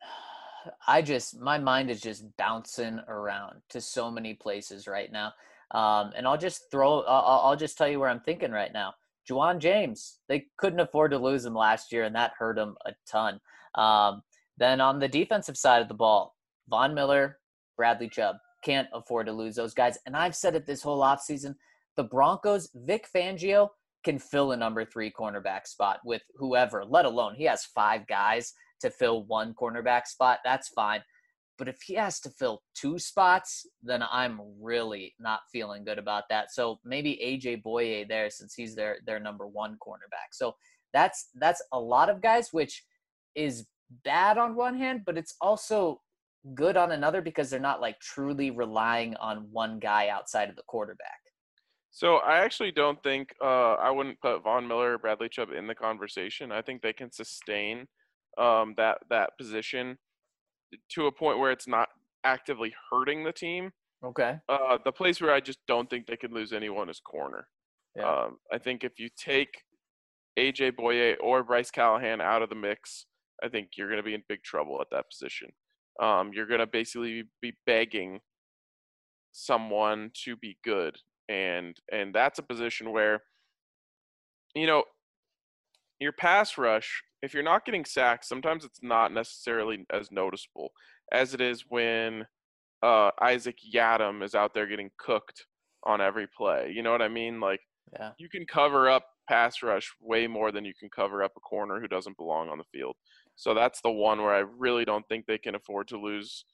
My mind is just bouncing around to so many places right now. And I'll just tell you where I'm thinking right now. Juwan James, they couldn't afford to lose him last year, and that hurt him a ton. Then on the defensive side of the ball, Von Miller, Bradley Chubb, can't afford to lose those guys. And I've said it this whole offseason, the Broncos, Vic Fangio can fill a number 3 cornerback spot with whoever, let alone he has 5 guys to fill 1 cornerback spot. That's fine. But if he has to fill 2 spots, then I'm really not feeling good about that. So maybe AJ Boye there, since he's their number 1 cornerback. So that's a lot of guys, which is bad on one hand, but it's also good on another because they're not like truly relying on one guy outside of the quarterback. So I actually don't think I wouldn't put Von Miller or Bradley Chubb in the conversation. I think they can sustain that position to a point where it's not actively hurting the team. Okay. The place where I just don't think they can lose anyone is corner. Yeah. I think if you take AJ Boye or Bryce Callahan out of the mix, I think you're going to be in big trouble at that position. You're going to basically be begging someone to be good, and that's a position where, you know, your pass rush, if you're not getting sacks, sometimes it's not necessarily as noticeable as it is when Isaac Yiadom is out there getting cooked on every play. You know what I mean? Like, Yeah. you can cover up pass rush way more than you can cover up a corner who doesn't belong on the field. So that's the one where I really don't think they can afford to lose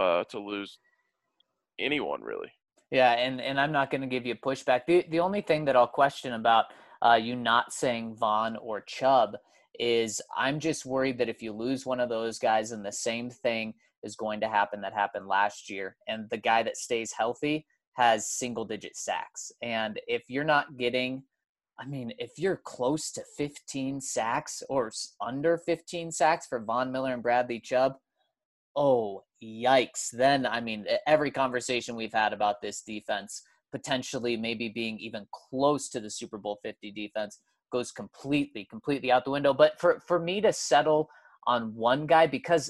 anyone really. Yeah, and I'm not going to give you pushback. The only thing that I'll question about you not saying Vaughn or Chubb is I'm just worried that if you lose one of those guys, and the same thing is going to happen that happened last year, and the guy that stays healthy has single-digit sacks. And if you're not getting, I mean, if you're close to 15 sacks or under 15 sacks for Von Miller and Bradley Chubb, oh, yikes. Then, I mean, every conversation we've had about this defense potentially maybe being even close to the Super Bowl 50 defense goes completely out the window. But for me to settle on one guy, because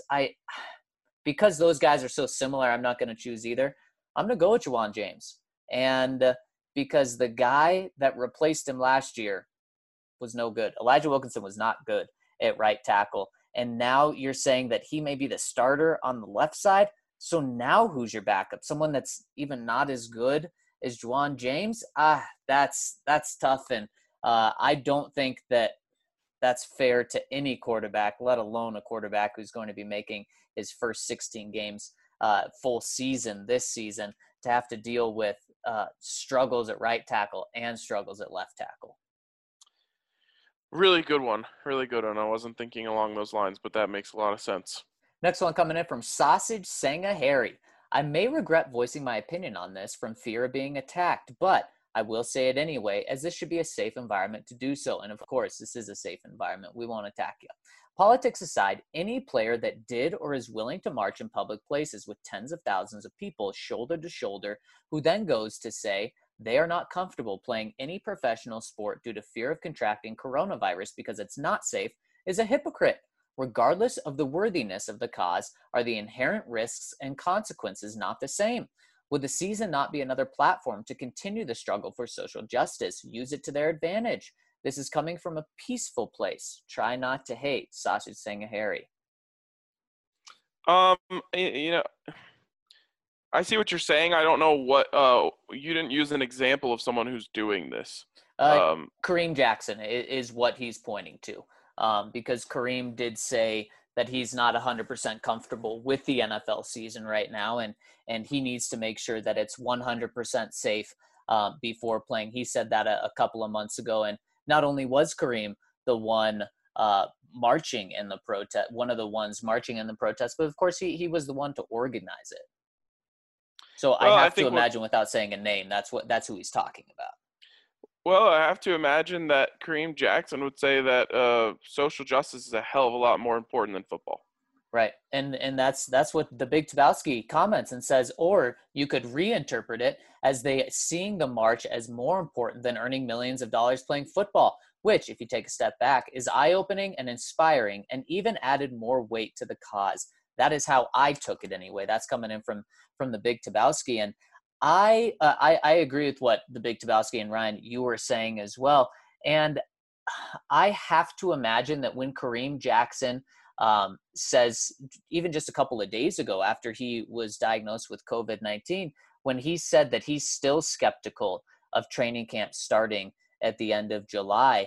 those guys are so similar, I'm not going to choose either. I'm going to go with Juwan James. And because the guy that replaced him last year was no good. Elijah Wilkinson was not good at right tackle. And now you're saying that he may be the starter on the left side. So now who's your backup? Someone that's even not as good as Juwan James? That's tough. And I don't think that that's fair to any quarterback, let alone a quarterback who's going to be making his first 16 games full season this season, to have to deal with struggles at right tackle and struggles at left tackle. Really good one. Really good one. I wasn't thinking along those lines, but that makes a lot of sense. Next one coming in from Sausage Sanga Harry. I may regret voicing my opinion on this from fear of being attacked, but I will say it anyway, as this should be a safe environment to do so. And of course, this is a safe environment. We won't attack you. Politics aside, any player that did or is willing to march in public places with tens of thousands of people shoulder to shoulder, who then goes to say they are not comfortable playing any professional sport due to fear of contracting coronavirus because it's not safe, is a hypocrite. Regardless of the worthiness of the cause, are the inherent risks and consequences not the same? Would the season not be another platform to continue the struggle for social justice? Use it to their advantage. This is coming from a peaceful place. Try not to hate. Sausage Sanga Harry. You know, I see what you're saying. I don't know what you didn't use an example of someone who's doing this. Kareem Jackson is what he's pointing to, because Kareem did say that he's not 100% comfortable with the NFL season right now, and he needs to make sure that it's 100% safe before playing. He said that a couple of months ago. And not only was Kareem the one marching in the protest, one of the ones marching in the protest, but of course he was the one to organize it. So Well, I have to imagine, without saying a name, that's who he's talking about. Well, I have to imagine that Kareem Jackson would say that social justice is a hell of a lot more important than football. Right. And that's what the Big Tabowski comments and says, or you could reinterpret it as they seeing the march as more important than earning millions of dollars playing football, which, if you take a step back, is eye-opening and inspiring and even added more weight to the cause. That is how I took it anyway. That's coming in from the Big Tabowski. And I agree with what the Big Tabowski and Ryan, you were saying as well. And I have to imagine that when Kareem Jackson says, even just a couple of days ago after he was diagnosed with COVID-19, when he said that he's still skeptical of training camp starting at the end of July,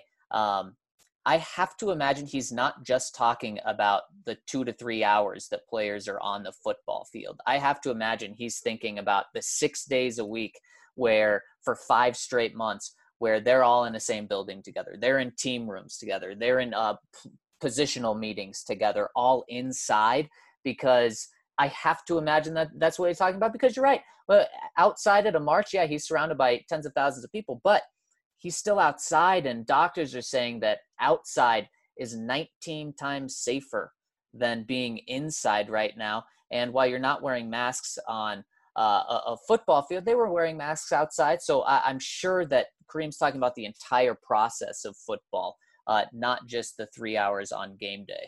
I have to imagine he's not just talking about the 2 to 3 hours that players are on the football field. I have to imagine he's thinking about the 6 days a week where for 5 straight months where they're all in the same building together. They're in team rooms together. They're in positional meetings together, all inside, because I have to imagine that that's what he's talking about, because you're right. Well, outside at a march, yeah, he's surrounded by tens of thousands of people, but he's still outside, and doctors are saying that outside is 19 times safer than being inside right now. And while you're not wearing masks on a football field, they were wearing masks outside. So I'm sure that Kareem's talking about the entire process of football, not just the 3 hours on game day.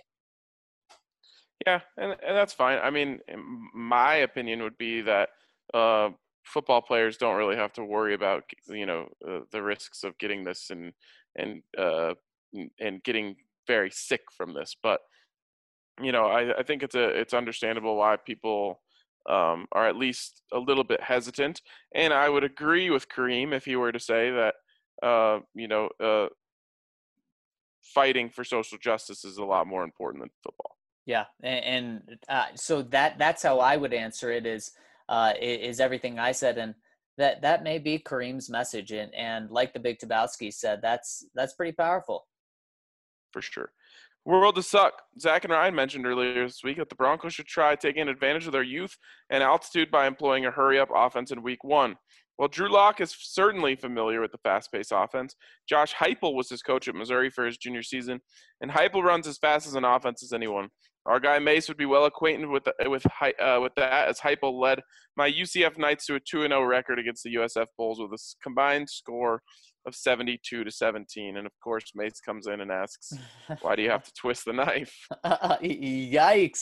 Yeah, and that's fine. I mean, my opinion would be that football players don't really have to worry about, the risks of getting this and getting very sick from this. But I think it's understandable why people are at least a little bit hesitant. And I would agree with Kareem if he were to say that fighting for social justice is a lot more important than football. Yeah, and so that's how I would answer it. Is everything I said, and that may be Kareem's message, and like the Big Tabowski said, that's pretty powerful. For sure. World to suck. Zach and Ryan mentioned earlier this week that the Broncos should try taking advantage of their youth and altitude by employing a hurry-up offense in Week 1. While Drew Lock is certainly familiar with the fast-paced offense, Josh Heupel was his coach at Missouri for his junior season, and Heupel runs as fast as an offense as anyone. Our guy Mace would be well acquainted with that, as Heupel led my UCF Knights to a 2-0 record against the USF Bulls with a combined score of 72-17. And of course, Mace comes in and asks, "Why do you have to twist the knife?" Yikes!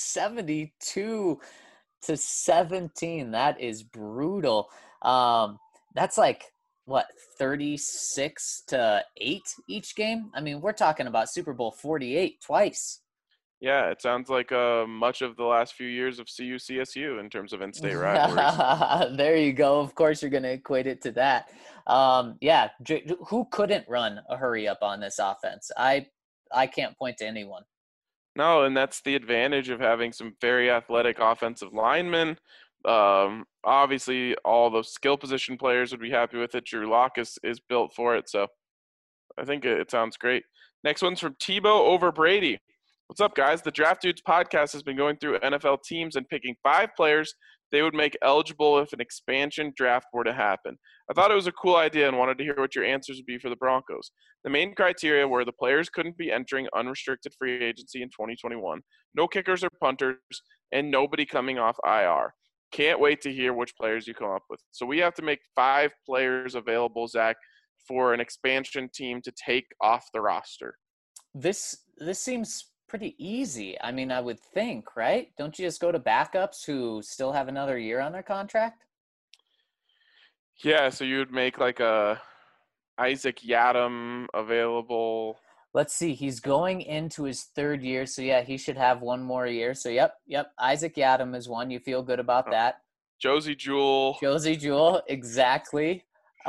72-17. That is brutal. That's like what, 36-8 each game? I mean, we're talking about Super Bowl 48 twice. Yeah, it sounds like much of the last few years of CU-CSU in terms of in-state rivalries. There you go. Of course, you're going to equate it to that. Yeah, who couldn't run a hurry-up on this offense? I can't point to anyone. No, and that's the advantage of having some very athletic offensive linemen. Obviously, all those skill position players would be happy with it. Drew Lock is built for it, so I think it sounds great. Next one's from Tebow over Brady. What's up, guys? The Draft Dudes podcast has been going through NFL teams and picking 5 players they would make eligible if an expansion draft were to happen. I thought it was a cool idea and wanted to hear what your answers would be for the Broncos. The main criteria were the players couldn't be entering unrestricted free agency in 2021, no kickers or punters, and nobody coming off IR. Can't wait to hear which players you come up with. So we have to make 5 players available, Zach, for an expansion team to take off the roster. This seems pretty easy. I mean, I would think, right? Don't you just go to backups who still have another year on their contract? Yeah, so you would make like a Isaac Yiadom available. Let's see. He's going into his 3rd year, so yeah, he should have one more year. So yep. Isaac Yiadom is one. You feel good about that? Josey Jewell, exactly.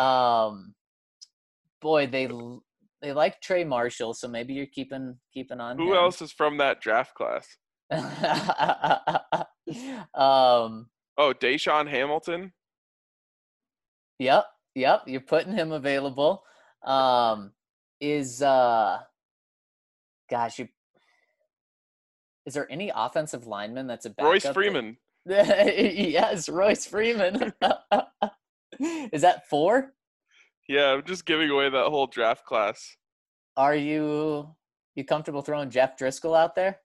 Boy, they like Trey Marshall, so maybe you're keeping on. Who him. else is from that draft class? Deshaun Hamilton. Yep. Yep, you're putting him available. Is gosh, you is there any offensive lineman that's a Royce backup? Freeman. Yes, Royce Freeman. Is that 4? Yeah, I'm just giving away that whole draft class. Are you comfortable throwing Jeff Driscoll out there?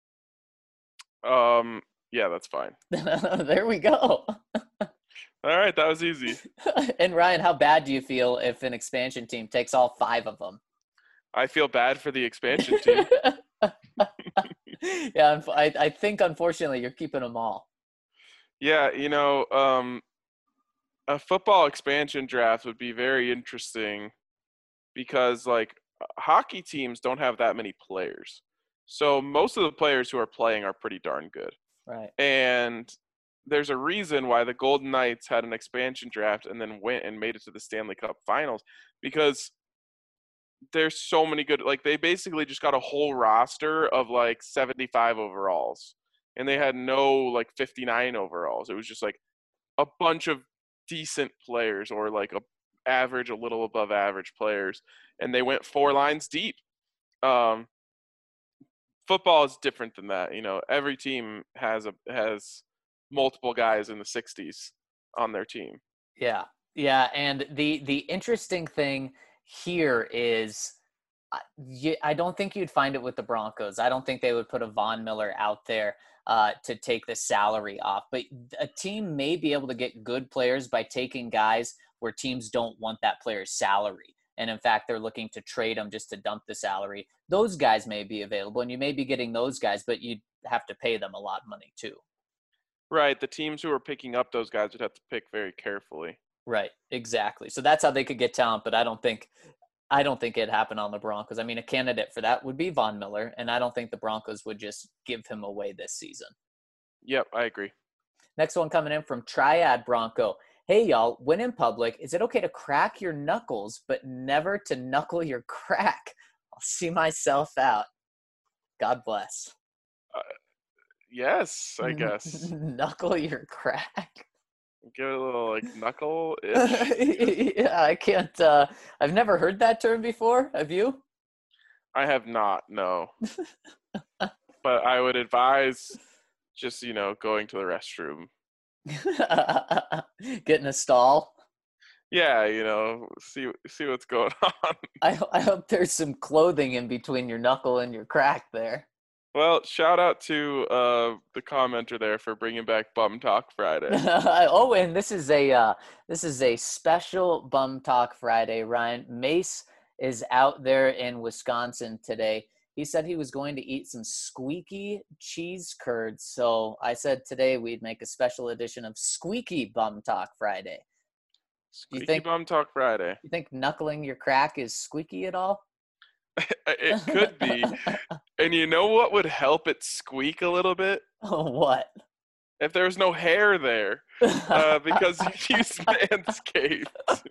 Yeah, that's fine. There we go. All right, that was easy. And Ryan, how bad do you feel if an expansion team takes all 5 of them? I feel bad for the expansion team. Yeah, I think unfortunately you're keeping them all. Yeah, a football expansion draft would be very interesting because like hockey teams don't have that many players. So most of the players who are playing are pretty darn good. Right. And there's a reason why the Golden Knights had an expansion draft and then went and made it to the Stanley Cup Finals, because there's so many good, like they basically just got a whole roster of like 75 overalls, and they had no like 59 overalls. It was just like a bunch of decent players, or like a little above average players, and they went 4 lines deep. Um, Football is different than that. Every team has multiple guys in the 60s on their team. Yeah. Yeah, and the interesting thing here is I don't think you'd find it with the Broncos. I don't think they would put a Von Miller out there to take the salary off. But a team may be able to get good players by taking guys where teams don't want that player's salary. And in fact, they're looking to trade them just to dump the salary. Those guys may be available, and you may be getting those guys, but you'd have to pay them a lot of money too. Right. The teams who are picking up those guys would have to pick very carefully. Right, exactly. So that's how they could get talent, but I don't think it happened on the Broncos. I mean, a candidate for that would be Von Miller, and I don't think the Broncos would just give him away this season. Yep, I agree. Next one coming in from Triad Bronco. Hey, y'all, when in public, is it okay to crack your knuckles, but never to knuckle your crack? I'll see myself out. God bless. Yes, I guess. Knuckle your crack. Give it a little like knuckle-ish. Yeah, I can't. I've never heard that term before. Have you? I have not, no. But I would advise just, going to the restroom. Get in a stall. Yeah, see what's going on. I hope there's some clothing in between your knuckle and your crack there. Well, shout out to the commenter there for bringing back Bum Talk Friday. Oh, and this is a special Bum Talk Friday. Ryan Mace is out there in Wisconsin today. He said he was going to eat some squeaky cheese curds. So I said today we'd make a special edition of Squeaky Bum Talk Friday. Squeaky Bum Talk Friday. You think knuckling your crack is squeaky at all? It could be. And you know what would help it squeak a little bit? What? If there was no hair there. Because you use Manscaped.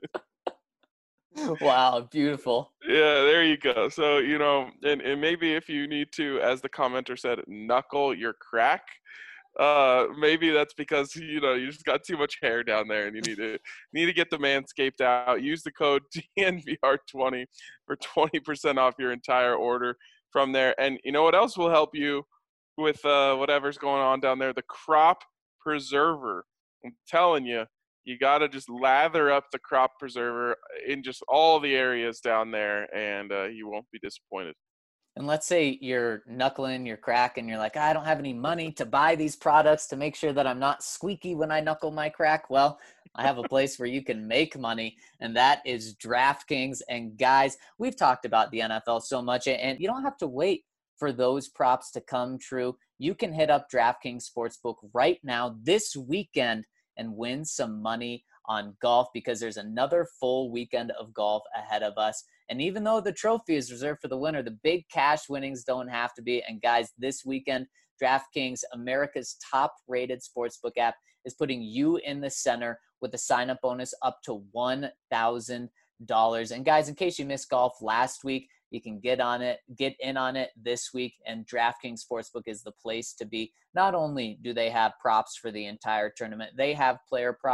Wow, beautiful. Yeah, there you go. So, and maybe if you need to, as the commenter said, knuckle your crack, maybe that's because, you just got too much hair down there and you need to get the Manscaped out. Use the code DNVR20 for 20% off your entire order from there. And you know what else will help you with whatever's going on down there? The Crop Preserver. I'm telling you. You got to just lather up the Crop Preserver in just all the areas down there, and you won't be disappointed. And let's say you're knuckling your crack and you're like, I don't have any money to buy these products to make sure that I'm not squeaky when I knuckle my crack. Well, I have a place where you can make money, and that is DraftKings. And guys, we've talked about the NFL so much, and you don't have to wait for those props to come true. You can hit up DraftKings Sportsbook right now this weekend and win some money on golf, because there's another full weekend of golf ahead of us. And even though the trophy is reserved for the winner, the big cash winnings don't have to be. And guys, this weekend, DraftKings, America's top-rated sportsbook app, is putting you in the center with a sign-up bonus up to $1,000. And guys, in case you missed golf last week, you can get in on it this week, and DraftKings Sportsbook is the place to be. Not only do they have props for the entire tournament, they have player props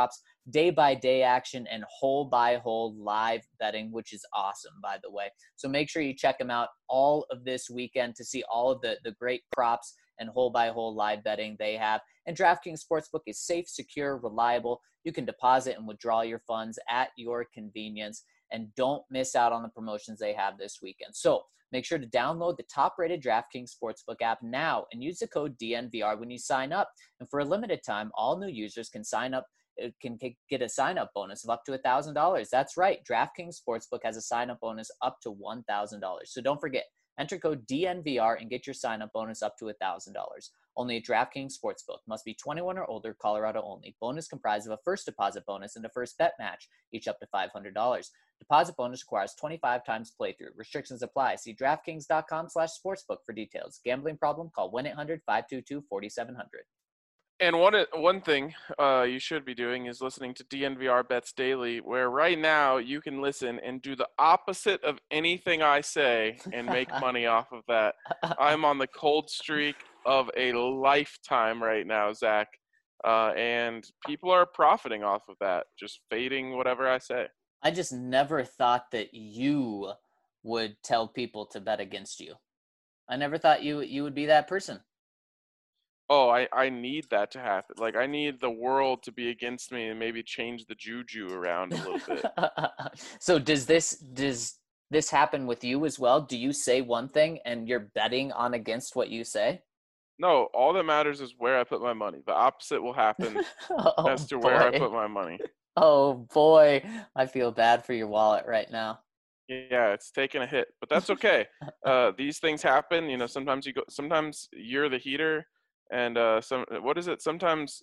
day-by-day action and hole-by-hole live betting, which is awesome, by the way. So make sure you check them out all of this weekend to see all of the great props and hole-by-hole live betting they have. And DraftKings Sportsbook is safe, secure, reliable. You can deposit and withdraw your funds at your convenience. And don't miss out on the promotions they have this weekend. So make sure to download the top-rated DraftKings Sportsbook app now and use the code DNVR when you sign up. And for a limited time, all new users can sign up, can get a sign-up bonus of up to $1,000. That's right. DraftKings Sportsbook has a sign-up bonus up to $1,000. So don't forget, enter code DNVR and get your sign-up bonus up to $1,000. Only at DraftKings Sportsbook. Must be 21 or older, Colorado only. Bonus comprised of a first deposit bonus and a first bet match, each up to $500. Deposit bonus requires 25 times playthrough. Restrictions apply. See DraftKings.com/sportsbook for details. Gambling problem? Call 1-800-522-4700. And one thing you should be doing is listening to DNVR Bets Daily, where right now you can listen and do the opposite of anything I say and make money off of that. I'm on the cold streak of a lifetime right now, Zach, and people are profiting off of that, just fading whatever I say. I just never thought that you would tell people to bet against you. I never thought you would be that person. Oh, I need that to happen. Like, I need the world to be against me and maybe change the juju around a little bit. So does this happen with you as well? Do you say one thing and you're betting on against what you say? No, all that matters is where I put my money. The opposite will happen as to where I put my money. Oh boy, I feel bad for your wallet right now. Yeah, it's taking a hit, but that's okay. These things happen. You know, sometimes you're the heater, and what is it? Sometimes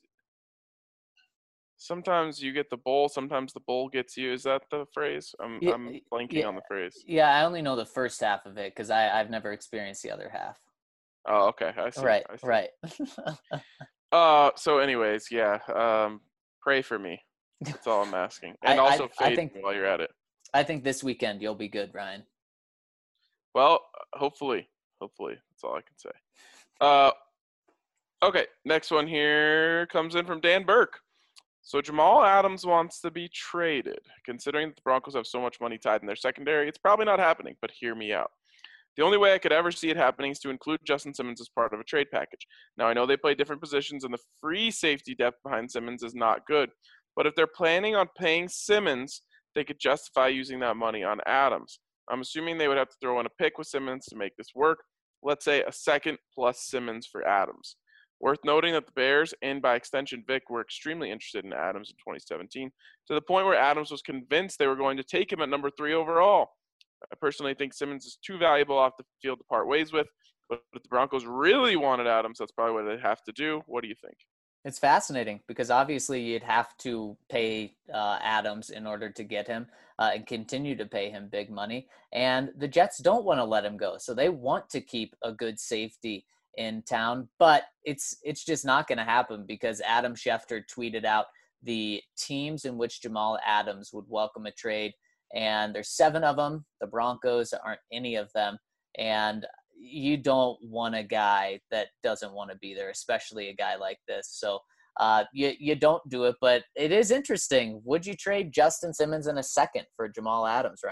you get the bowl. Sometimes the bowl gets you. Is that the phrase? I'm blanking on the phrase. Yeah, I only know the first half of it because I've never experienced the other half. Oh, okay. I see. Right, I see. right. So anyways, yeah. Pray for me. That's all I'm asking. And also fade me while you're at it. I think this weekend you'll be good, Ryan. Well, hopefully. That's all I can say. Okay, next one here comes in from Dan Burke. So Jamal Adams wants to be traded. Considering that the Broncos have so much money tied in their secondary, it's probably not happening, but hear me out. The only way I could ever see it happening is to include Justin Simmons as part of a trade package. Now, I know they play different positions, and the free safety depth behind Simmons is not good. But if they're planning on paying Simmons, they could justify using that money on Adams. I'm assuming they would have to throw in a pick with Simmons to make this work. Let's say a second plus Simmons for Adams. Worth noting that the Bears, and by extension Vic, were extremely interested in Adams in 2017, to the point where Adams was convinced they were going to take him at number 3 overall. I personally think Simmons is too valuable off the field to part ways with, but if the Broncos really wanted Adams, that's probably what they'd have to do. What do you think? It's fascinating because obviously you'd have to pay Adams in order to get him and continue to pay him big money. And the Jets don't want to let him go. So they want to keep a good safety in town, but it's just not going to happen because Adam Schefter tweeted out the teams in which Jamal Adams would welcome a trade. And there's 7 of them. The Broncos aren't any of them. And you don't want a guy that doesn't want to be there, especially a guy like this. So you don't do it, but it is interesting. Would you trade Justin Simmons in a second for Jamal Adams,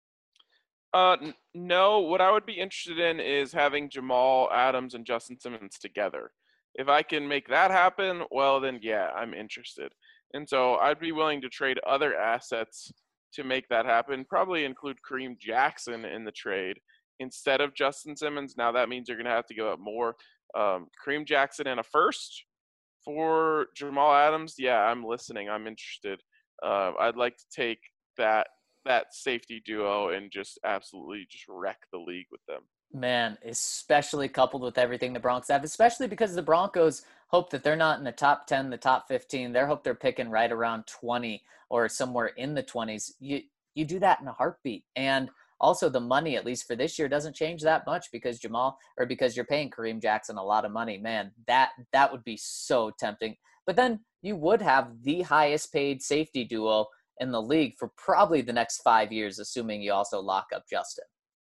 Ryan? No. What I would be interested in is having Jamal Adams and Justin Simmons together. If I can make that happen, well, then yeah, I'm interested. And so I'd be willing to trade other assets to make that happen, probably include Kareem Jackson in the trade instead of Justin Simmons. Now that means you're going to have to give up more. Kareem Jackson and a first for Jamal Adams. Yeah, I'm listening. I'm interested. I'd like to take that safety duo and just absolutely just wreck the league with them. Man, especially coupled with everything the Broncos have, especially because the Broncos hope that they're not in the top 10, the top 15. They hope they're picking right around 20 or somewhere in the 20s. You do that in a heartbeat. And also the money, at least for this year, doesn't change that much because because you're paying Kareem Jackson a lot of money. Man, that would be so tempting. But then you would have the highest paid safety duo in the league for probably the next 5 years, assuming you also lock up Justin.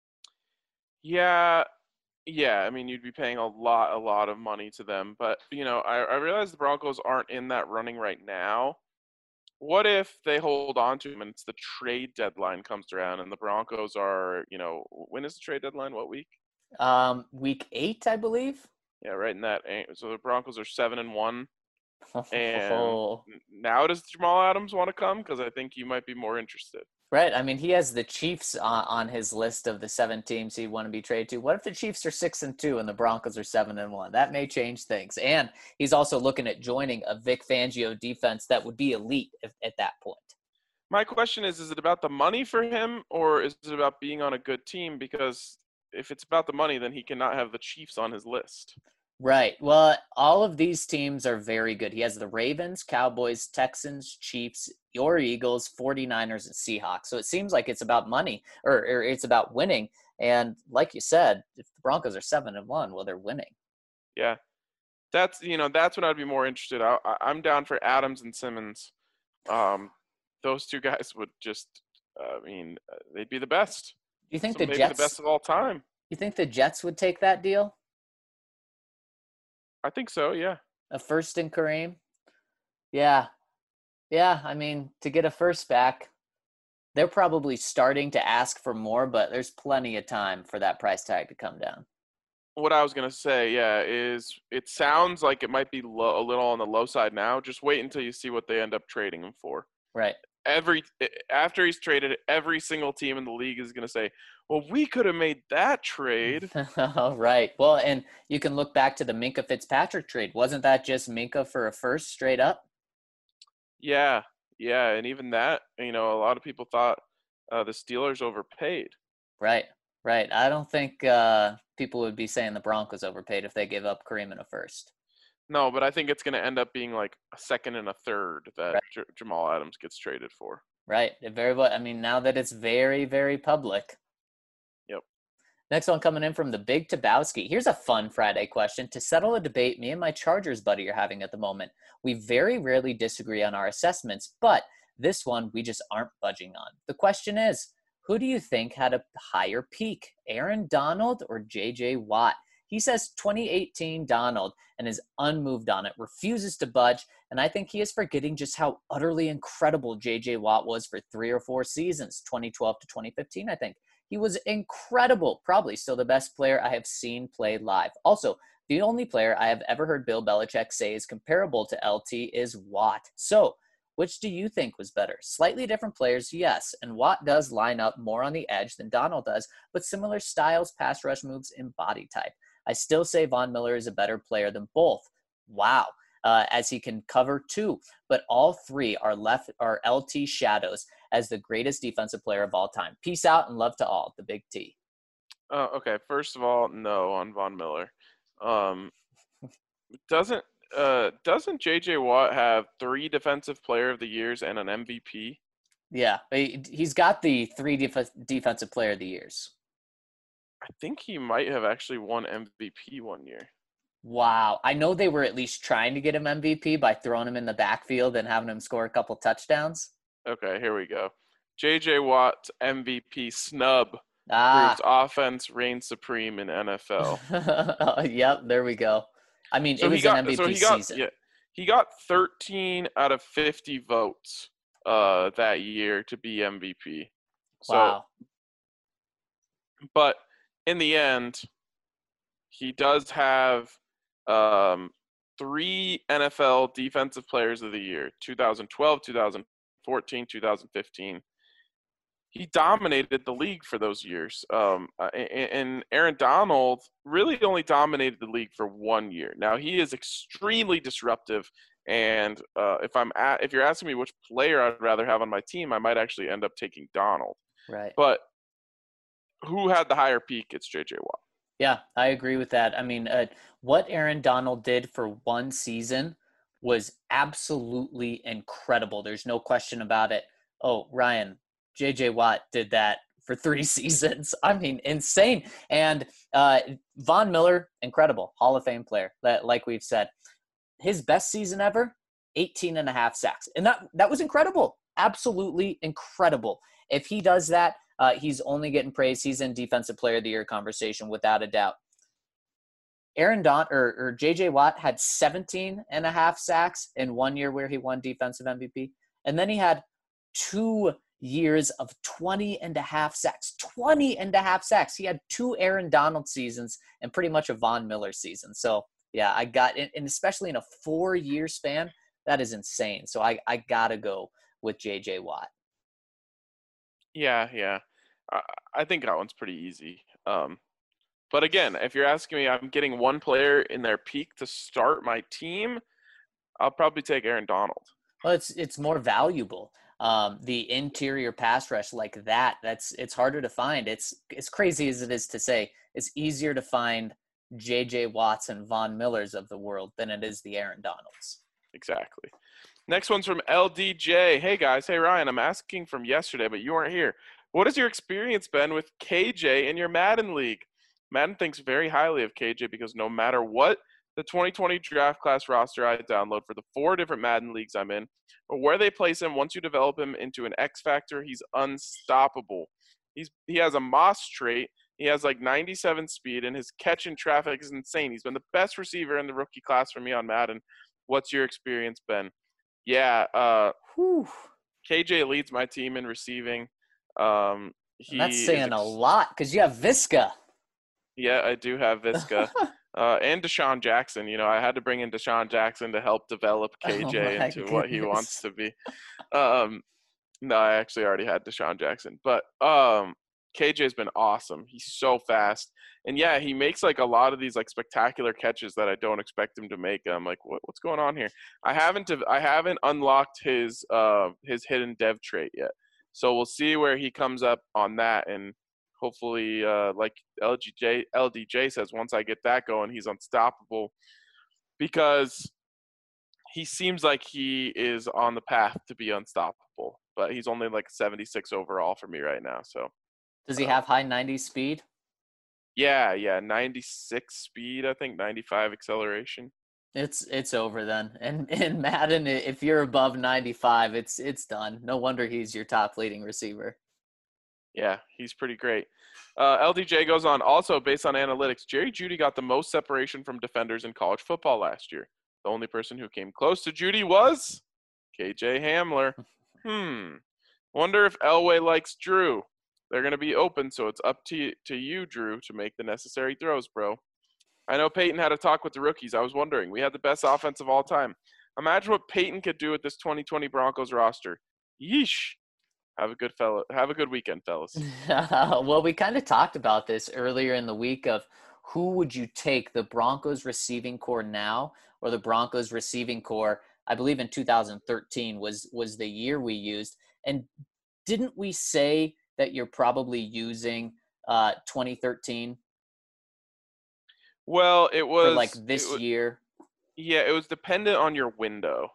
Yeah. I mean, you'd be paying a lot of money to them. But, I realize the Broncos aren't in that running right now. what if they hold on to him and it's the trade deadline comes around and the Broncos are, when is the trade deadline? What week? Week 8, I believe. Yeah, right in that. So the Broncos are 7-1, and Oh, now does Jamal Adams want to come? Because I think you might be more interested. right. I mean, he has the Chiefs on his list of the 7 teams he'd want to be traded to. What if the Chiefs are 6-2 and the Broncos are 7-1? That may change things. And he's also looking at joining a Vic Fangio defense that would be elite at that point. My question is it about the money for him, or is it about being on a good team? Because if it's about the money, then he cannot have the Chiefs on his list. Right. Well, all of these teams are very good. He has the Ravens, Cowboys, Texans, Chiefs, your Eagles, 49ers, and Seahawks. So it seems like it's about money or it's about winning. And like you said, if the Broncos are 7-1, well, they're winning. Yeah, that's what I'd be more interested. I'm down for Adams and Simmons. Those two guys would just, they'd be the best. Do you think So the maybe Jets? the best of all time. You think the Jets would take that deal? I think so. Yeah. A first in Kareem? Yeah. Yeah. I mean, to get a first back, they're probably starting to ask for more, but there's plenty of time for that price tag to come down. What I was gonna say, yeah, is it sounds like it might be a little on the low side now. Just wait until you see what they end up trading him for. Right. After he's traded, every single team in the league is gonna say, "Well, we could have made that trade." Right. Well, and you can look back to the Minka Fitzpatrick trade. Wasn't that just Minka for a first straight up? Yeah, yeah, and even that, a lot of people thought the Steelers overpaid. Right. Right. I don't think people would be saying the Broncos overpaid if they give up Kareem in a first. No, but I think it's going to end up being like a second and a third that Right. Jamal Adams gets traded for. Right. It very well. I mean, now that it's very, very public. Yep. Next one coming in from the Big Tabowski. Here's a fun Friday question to settle a debate me and my Chargers buddy are having at the moment. We very rarely disagree on our assessments, but this one we just aren't budging on. The question is, who do you think had a higher peak, Aaron Donald or J.J. Watt? He says 2018 Donald and is unmoved on it, refuses to budge, and I think he is forgetting just how utterly incredible J.J. Watt was for 3 or 4 seasons, 2012 to 2015, I think. He was incredible, probably still the best player I have seen play live. Also, the only player I have ever heard Bill Belichick say is comparable to LT is Watt. So, which do you think was better? Slightly different players, yes, and Watt does line up more on the edge than Donald does, but similar styles, pass rush moves, and body type. I still say Von Miller is a better player than both. Wow. As he can cover too, but all three are LT shadows as the greatest defensive player of all time. Peace out and love to all. The Big T. Okay. First of all, no on Von Miller. Doesn't J.J. Watt have 3 Defensive Player of the Years and an MVP? Yeah, he's got the 3 Defensive Player of the Years. I think he might have actually won MVP one year. Wow. I know they were at least trying to get him MVP by throwing him in the backfield and having him score a couple touchdowns. Okay, here we go. J.J. Watt's MVP snub proves Ah. offense reigns supreme in NFL. Yep, there we go. I mean, So it was an MVP season. Yeah, he got 13 out of 50 votes that year to be MVP. So, Wow. but in the end, he does have 3 NFL Defensive Players of the Year: 2012, 2014, 2015. He dominated the league for those years. And Aaron Donald really only dominated the league for 1 year. Now, he is extremely disruptive. And if you're asking me which player I'd rather have on my team, I might actually end up taking Donald. Right. But who had the higher peak? It's J.J. Watt. Yeah, I agree with that. I mean, what Aaron Donald did for 1 season was absolutely incredible. There's no question about it. Oh, Ryan, J.J. Watt did that for 3 seasons. I mean, insane. And Von Miller, incredible, Hall of Fame player, like we've said. His best season ever, 18 and a half sacks. And that was incredible, absolutely incredible. If he does that, he's only getting praise. He's in Defensive Player of the Year conversation without a doubt. J.J. Watt had 17 and a half sacks in 1 year where he won Defensive MVP. And then he had 2 years of 20 and a half sacks. 20 and a half sacks. He had 2 Aaron Donald seasons and pretty much a Von Miller season. So, yeah, and especially in a 4-year span, that is insane. So I got to go with J.J. Watt. Yeah. I think that one's pretty easy. But again, if you're asking me, I'm getting one player in their peak to start my team, I'll probably take Aaron Donald. Well, it's more valuable. The interior pass rush like that, it's harder to find. It's as crazy as it is to say, it's easier to find J.J. Watts and Von Millers of the world than it is the Aaron Donalds. Exactly. Next one's from LDJ. Hey, guys. Hey, Ryan. I'm asking from yesterday, but you weren't here. What has your experience been with KJ in your Madden League? Madden thinks very highly of KJ because no matter what the 2020 draft class roster I download for the 4 different Madden leagues I'm in, or where they place him, once you develop him into an X factor, he's unstoppable. He has a Moss trait. He has like 97 speed, and his catch in traffic is insane. He's been the best receiver in the rookie class for me on Madden. What's your experience been? Yeah, KJ leads my team in receiving. That's saying a lot because you have Visca. Yeah, I do have Visca. And Deshaun Jackson. You know, I had to bring in Deshaun Jackson to help develop KJ into what he wants to be. No, I actually already had Deshaun Jackson. But KJ's been awesome. He's so fast. And, yeah, he makes, like, a lot of these, like, spectacular catches that I don't expect him to make. I'm like, what's going on here? I haven't unlocked his hidden dev trait yet. So we'll see where he comes up on that. And hopefully, like LDJ says, once I get that going, he's unstoppable because he seems like he is on the path to be unstoppable. But he's only like 76 overall for me right now. So does he have high 90s speed? Yeah, 96 speed, I think, 95 acceleration. It's over then. And in Madden, if you're above 95, it's done. No wonder he's your top leading receiver. Yeah, he's pretty great. LDJ goes on, also based on analytics, Jerry Jeudy got the most separation from defenders in college football last year. The only person who came close to Jeudy was KJ Hamler. Wonder if Elway likes Drew. They're going to be open, so it's up to you, Drew, to make the necessary throws, bro. I know Peyton had a talk with the rookies. I was wondering. We had the best offense of all time. Imagine what Peyton could do with this 2020 Broncos roster. Yeesh. Have a good weekend, fellas. Well, we kind of talked about this earlier in the week of who would you take, the Broncos receiving core now or the Broncos receiving core, I believe in 2013 was the year we used. And didn't we say that you're probably using 2013? Well, it was for like this year. Yeah, it was dependent on your window.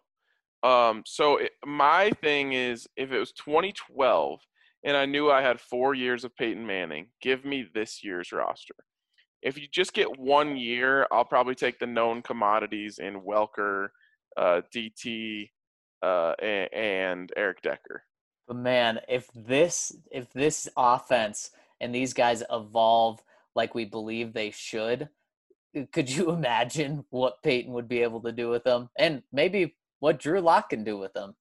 My thing is, if it was 2012 and I knew I had 4 years of Peyton Manning, give me this year's roster. If you just get 1 year, I'll probably take the known commodities in Welker, DT, and Eric Decker. But man, if this offense and these guys evolve like we believe they should, could you imagine what Peyton would be able to do with them, and maybe what Drew Lock can do with them?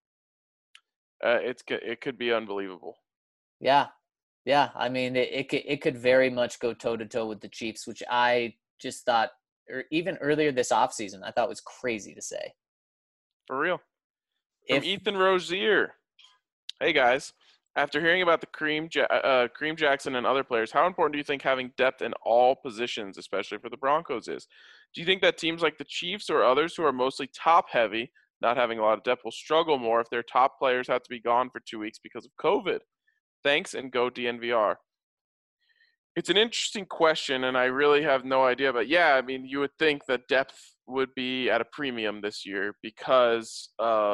It could be unbelievable. Yeah. I mean, it could very much go toe to toe with the Chiefs, which I just thought, or even earlier this offseason, I thought was crazy to say. For real. From Ethan Rozier. Hey guys, after hearing about the Kareem Jackson and other players, how important do you think having depth in all positions, especially for the Broncos, is? Do you think that teams like the Chiefs or others who are mostly top-heavy, not having a lot of depth, will struggle more if their top players have to be gone for 2 weeks because of COVID? Thanks, and go DNVR. It's an interesting question, and I really have no idea. But, yeah, I mean, you would think that depth would be at a premium this year because,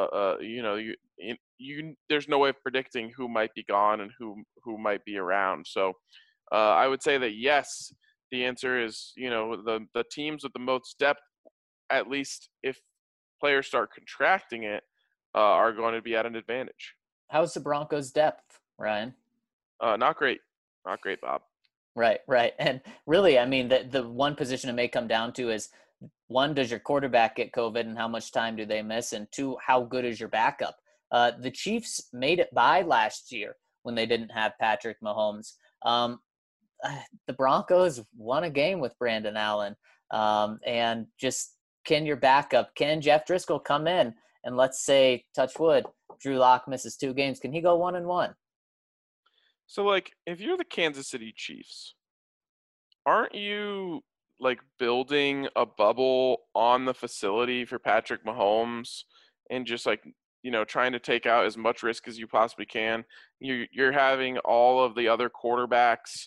there's no way of predicting who might be gone and who might be around. So I would say that, yes, the answer is, the teams with the most depth, at least if players start contracting it, are going to be at an advantage. How's the Broncos' depth, Ryan? Not great. Not great, Bob. Right. And really, I mean, the one position it may come down to is, one, does your quarterback get COVID and how much time do they miss? And two, how good is your backup? The Chiefs made it by last year when they didn't have Patrick Mahomes. The Broncos won a game with Brandon Allen. And just can your backup, can Jeff Driscoll come in and, let's say, touch wood, Drew Lock misses 2 games, can he go 1-1? So, like, if you're the Kansas City Chiefs, aren't you, like, building a bubble on the facility for Patrick Mahomes and just, like, trying to take out as much risk as you possibly can? You're having all of the other quarterbacks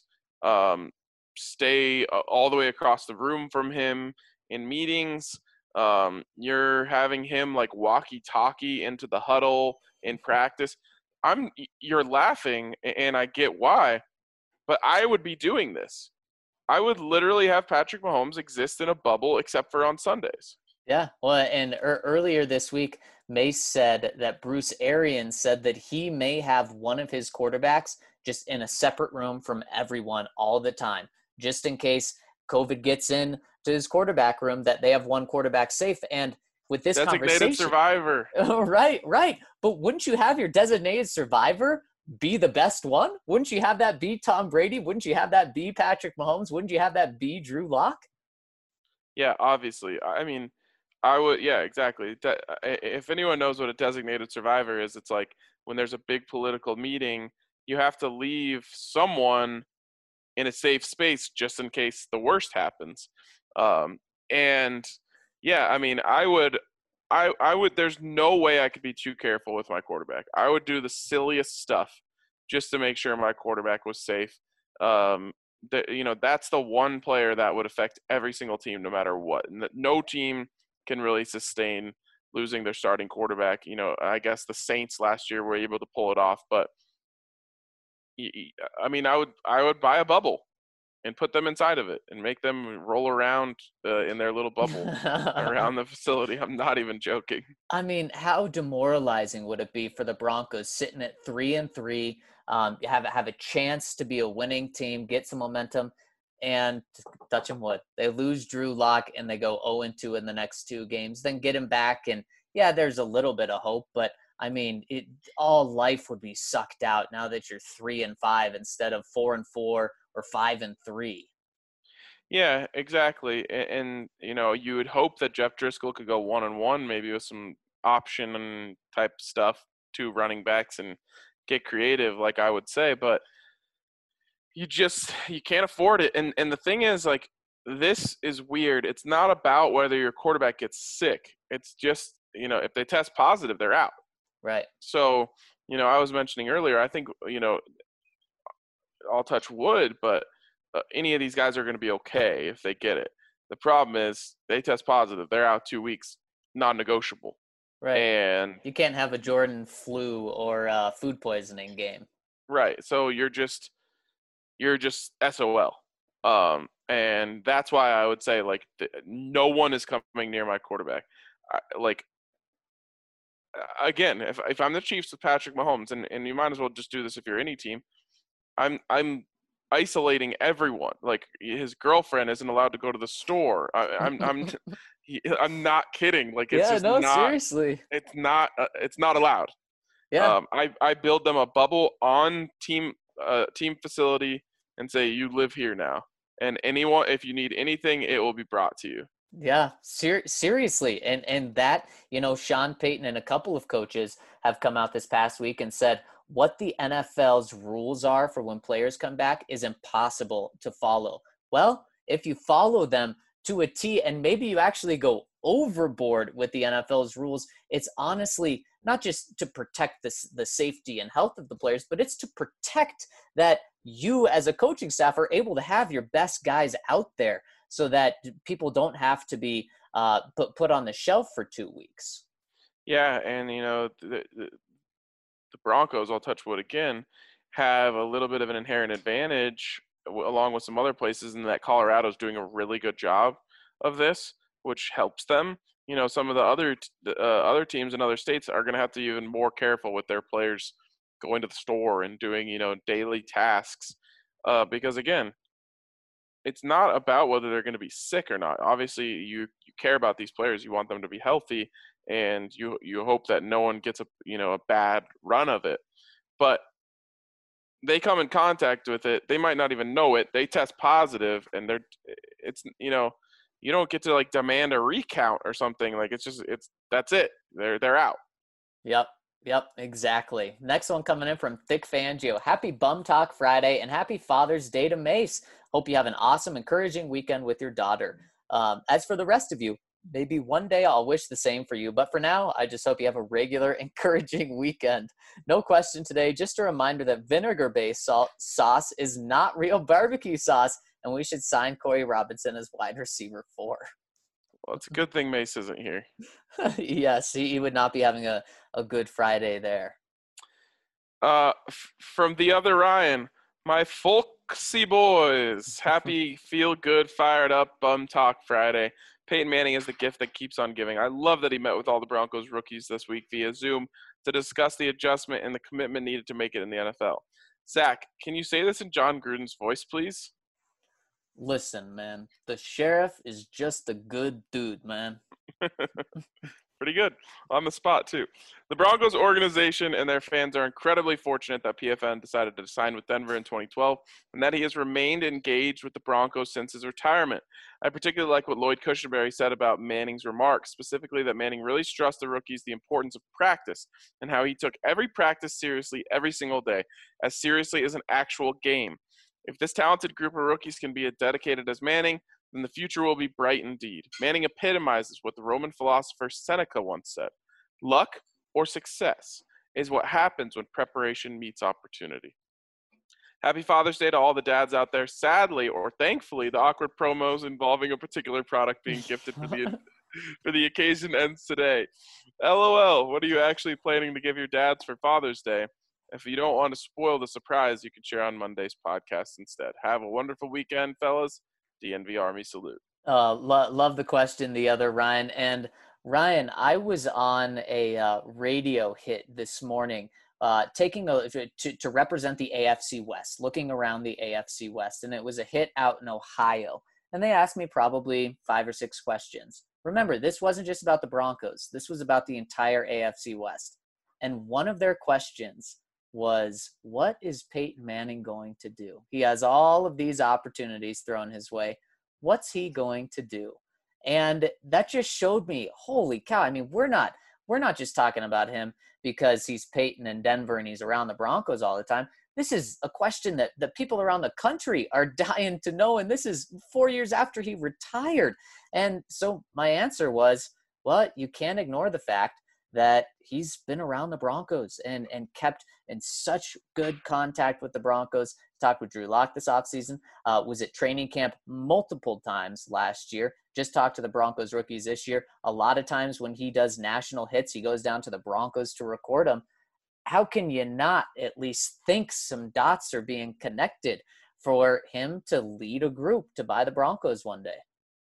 stay all the way across the room from him in meetings. You're having him, like, walkie-talkie into the huddle in practice. You're laughing, and I get why, but I would be doing this. I would literally have Patrick Mahomes exist in a bubble except for on Sundays. Yeah, well, and earlier this week, Mace said that Bruce Arians said that he may have one of his quarterbacks just in a separate room from everyone all the time, just in case COVID gets in to his quarterback room, that they have one quarterback safe. And with this Designated conversation, survivor. right. But wouldn't you have your designated survivor be the best one? Wouldn't you have that be Tom Brady? Wouldn't you have that be Patrick Mahomes? Wouldn't you have that be Drew Lock? Yeah, obviously. I mean, I would. Yeah, exactly. If anyone knows what a designated survivor is, it's like when there's a big political meeting, you have to leave someone in a safe space just in case the worst happens. And yeah, I mean, I would. There's no way I could be too careful with my quarterback. I would do the silliest stuff just to make sure my quarterback was safe. That's the one player that would affect every single team, no matter what. And no team can really sustain losing their starting quarterback. I guess the Saints last year were able to pull it off, but I mean, I would buy a bubble and put them inside of it and make them roll around in their little bubble around the facility. I'm not even joking. I mean, how demoralizing would it be for the Broncos sitting at 3-3, have a chance to be a winning team, get some momentum, and touch them wood, they lose Drew Lock and they go 0-2 in the next 2 games, then get him back, and yeah, there's a little bit of hope, but I mean, all life would be sucked out now that you're 3-5 instead of 4-4 or 5-3. Yeah, exactly. And you would hope that Jeff Driscoll could go 1-1, maybe with some option and type stuff, 2 running backs, and get creative, like I would say. But you can't afford it. And the thing is, like, this is weird. It's not about whether your quarterback gets sick. It's just, if they test positive, they're out. Right. So, I was mentioning earlier, I think, I'll touch wood, but any of these guys are going to be okay if they get it. The problem is they test positive. They're out 2 weeks, non-negotiable. Right. And you can't have a Jordan flu or food poisoning game. Right. So you're just SOL. And that's why I would say, like, no one is coming near my quarterback. Again, if I'm the Chiefs with Patrick Mahomes, and you might as well just do this if you're any team, I'm isolating everyone. Like, his girlfriend isn't allowed to go to the store. I'm not kidding. Like, it's seriously. It's not allowed. Yeah. I build them a bubble on team facility and say, you live here now. And anyone, if you need anything, it will be brought to you. Yeah, seriously. And that, Sean Payton and a couple of coaches have come out this past week and said what the NFL's rules are for when players come back is impossible to follow. Well, if you follow them to a T and maybe you actually go overboard with the NFL's rules, it's honestly not just to protect the safety and health of the players, but it's to protect that you as a coaching staff are able to have your best guys out there so that people don't have to be put on the shelf for 2 weeks. Yeah, and the Broncos, I'll touch wood again, have a little bit of an inherent advantage along with some other places, in that Colorado's doing a really good job of this, which helps them. Some of the other teams in other states are going to have to be even more careful with their players going to the store and doing daily tasks, because again, it's not about whether they're going to be sick or not. Obviously, you care about these players. You want them to be healthy, and you hope that no one gets a bad run of it. But they come in contact with it. They might not even know it. They test positive, and you don't get to like demand a recount or something. Like that's it. They're out. Yep, exactly. Next one coming in from Thick Fangio. Happy Bum Talk Friday and happy Father's Day to Mace. Hope you have an awesome, encouraging weekend with your daughter. As for the rest of you, maybe one day I'll wish the same for you. But for now, I just hope you have a regular, encouraging weekend. No question today. Just a reminder that vinegar-based sauce is not real barbecue sauce, and we should sign Corey Robinson as wide receiver 4. Well, it's a good thing Mace isn't here. Yes, he would not be having a good Friday there. From the other Ryan, my folksy boys, happy, feel good, fired up, Bum Talk Friday. Peyton Manning is the gift that keeps on giving. I love that he met with all the Broncos rookies this week via Zoom to discuss the adjustment and the commitment needed to make it in the NFL. Zach, can you say this in John Gruden's voice, please? Listen, man, the sheriff is just a good dude, man. Pretty good. On the spot, too. The Broncos organization and their fans are incredibly fortunate that PFN decided to sign with Denver in 2012 and that he has remained engaged with the Broncos since his retirement. I particularly like what Lloyd Cushenberry said about Manning's remarks, specifically that Manning really stressed the rookies the importance of practice and how he took every practice seriously every single day, as seriously as an actual game. If this talented group of rookies can be as dedicated as Manning, then the future will be bright indeed. Manning epitomizes what the Roman philosopher Seneca once said: luck or success is what happens when preparation meets opportunity. Happy Father's Day to all the dads out there. Sadly, or thankfully, the awkward promos involving a particular product being gifted for the occasion ends today. LOL, what are you actually planning to give your dads for Father's Day? If you don't want to spoil the surprise, you can share on Monday's podcast instead. Have a wonderful weekend, fellas. DNV Army salute. Love the question, the other Ryan. And Ryan, I was on a radio hit this morning, taking to represent the AFC West, looking around the AFC West, and it was a hit out in Ohio. And they asked me probably 5 or 6 questions. Remember, this wasn't just about the Broncos. This was about the entire AFC West. And one of their questions was, what is Peyton Manning going to do? He has all of these opportunities thrown his way. What's he going to do? And that just showed me, holy cow. I mean, we're not just talking about him because he's Peyton in Denver and he's around the Broncos all the time. This is a question that the people around the country are dying to know. And this is 4 years after he retired. And so my answer was, well, you can't ignore the fact that he's been around the Broncos and kept in such good contact with the Broncos. Talked with Drew Lock this offseason, was at training camp multiple times last year, just talked to the Broncos rookies this year. A lot of times when he does national hits, he goes down to the Broncos to record them. How can you not at least think some dots are being connected for him to lead a group to buy the Broncos one day?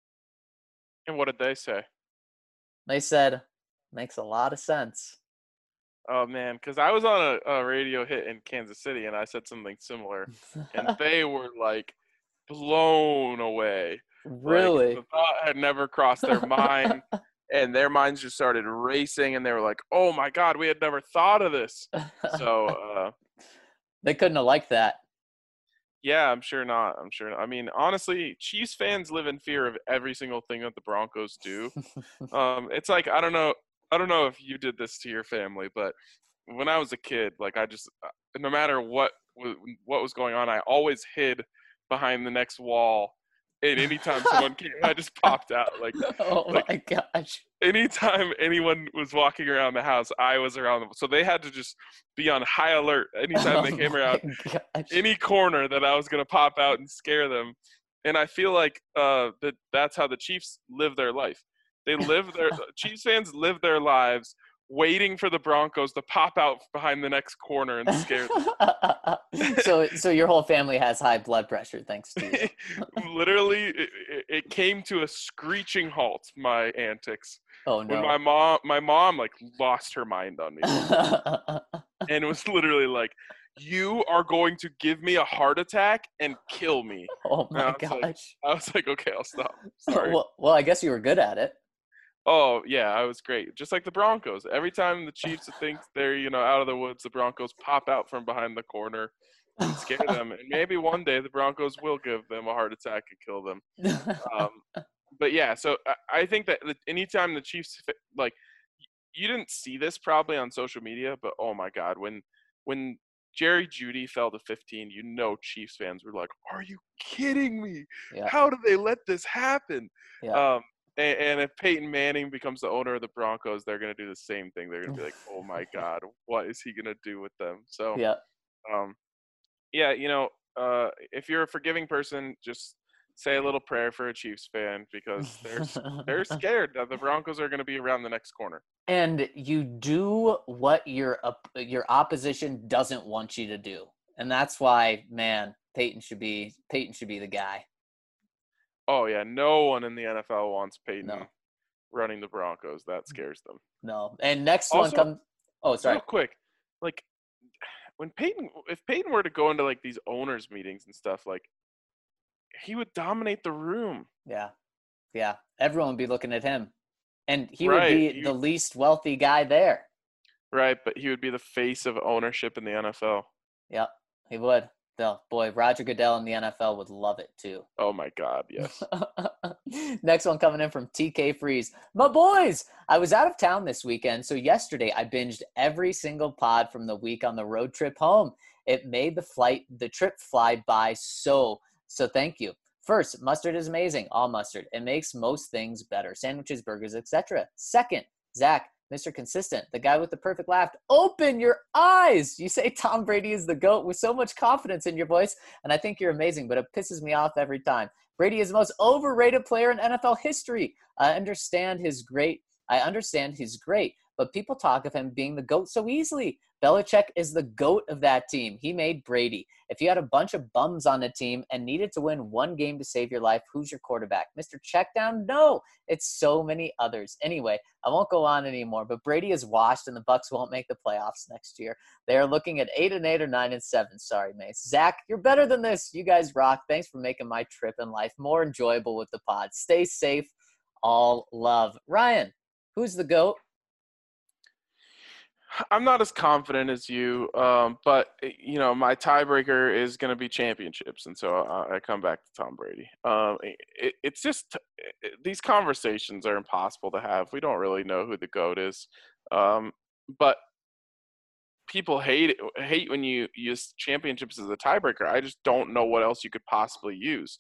And what did they say? They said, makes a lot of sense. Oh, man, because I was on a radio hit in Kansas City, and I said something similar, and they were, like, blown away. Really? Like, the thought had never crossed their mind, and their minds just started racing, and they were like, oh, my God, we had never thought of this. So they couldn't have liked that. Yeah, I'm sure not. I mean, honestly, Chiefs fans live in fear of every single thing that the Broncos do. It's like, I don't know if you did this to your family, but when I was a kid, like no matter what was going on, I always hid behind the next wall. And anytime someone came, I just popped out. My gosh. Anytime anyone was walking around the house, I was around them. So they had to just be on high alert anytime they came around any corner that I was going to pop out and scare them. And I feel like that's how the Chiefs live their life. Chiefs fans live their lives waiting for the Broncos to pop out behind the next corner and scare them. So your whole family has high blood pressure thanks to you. Literally, it came to a screeching halt, my antics. Oh no. When my mom like lost her mind on me. And it was literally like, you are going to give me a heart attack and kill me. Oh And my gosh. I was like, okay, I'll stop. Sorry. Well, I guess you were good at it. Oh yeah, I was great. Just like the Broncos. Every time the Chiefs think they're, out of the woods, the Broncos pop out from behind the corner and scare them. And maybe one day the Broncos will give them a heart attack and kill them. But yeah, so I think that anytime the Chiefs, like, you didn't see this probably on social media, but oh my God, when Jerry Jeudy fell to 15, Chiefs fans were like, "Are you kidding me? Yeah. How did they let this happen?" Yeah. And if Peyton Manning becomes the owner of the Broncos, they're going to do the same thing. They're going to be like, "Oh my God, what is he going to do with them?" So, Yeah. yeah, if you're a forgiving person, just say a little prayer for a Chiefs fan because they're scared that the Broncos are going to be around the next corner. And you do what your opposition doesn't want you to do, and that's why, man, Peyton should be the guy. Oh yeah, no one in the NFL wants Peyton No. running the Broncos. That scares them. No. And next Also, one comes. Oh, sorry. Real quick, like if Peyton were to go into like these owners meetings and stuff, like he would dominate the room. Yeah. Yeah. Everyone would be looking at him. And he Right. would be the least wealthy guy there. Right, but he would be the face of ownership in the NFL. Yep, he would. Oh, boy, Roger Goodell in the NFL would love it too. Oh my God, yes. Next one coming in from TK Freeze. My boys, I was out of town this weekend, so yesterday I binged every single pod from the week on the road trip home. It made the trip fly by so thank you. First, mustard is amazing. All mustard. It makes most things better. Sandwiches, burgers, etc. Second, Zach, Mr. Consistent, the guy with the perfect laugh. Open your eyes. You say Tom Brady is the GOAT with so much confidence in your voice, and I think you're amazing, but it pisses me off every time. Brady is the most overrated player in NFL history. I understand he's great, but people talk of him being the GOAT so easily. Belichick is the GOAT of that team. He made Brady. If you had a bunch of bums on the team and needed to win one game to save your life, who's your quarterback? Mr. Checkdown? No, it's so many others. Anyway, I won't go on anymore, but Brady is washed and the Bucs won't make the playoffs next year. They are looking at 8-8 or 9-7. Sorry, Mace. Zach, you're better than this. You guys rock. Thanks for making my trip in life more enjoyable with the pod. Stay safe. All love. Ryan, who's the GOAT? I'm not as confident as you, but my tiebreaker is going to be championships, and so I come back to Tom Brady. It's just these conversations are impossible to have. We don't really know who the GOAT is, but people hate when you use championships as a tiebreaker. I just don't know what else you could possibly use.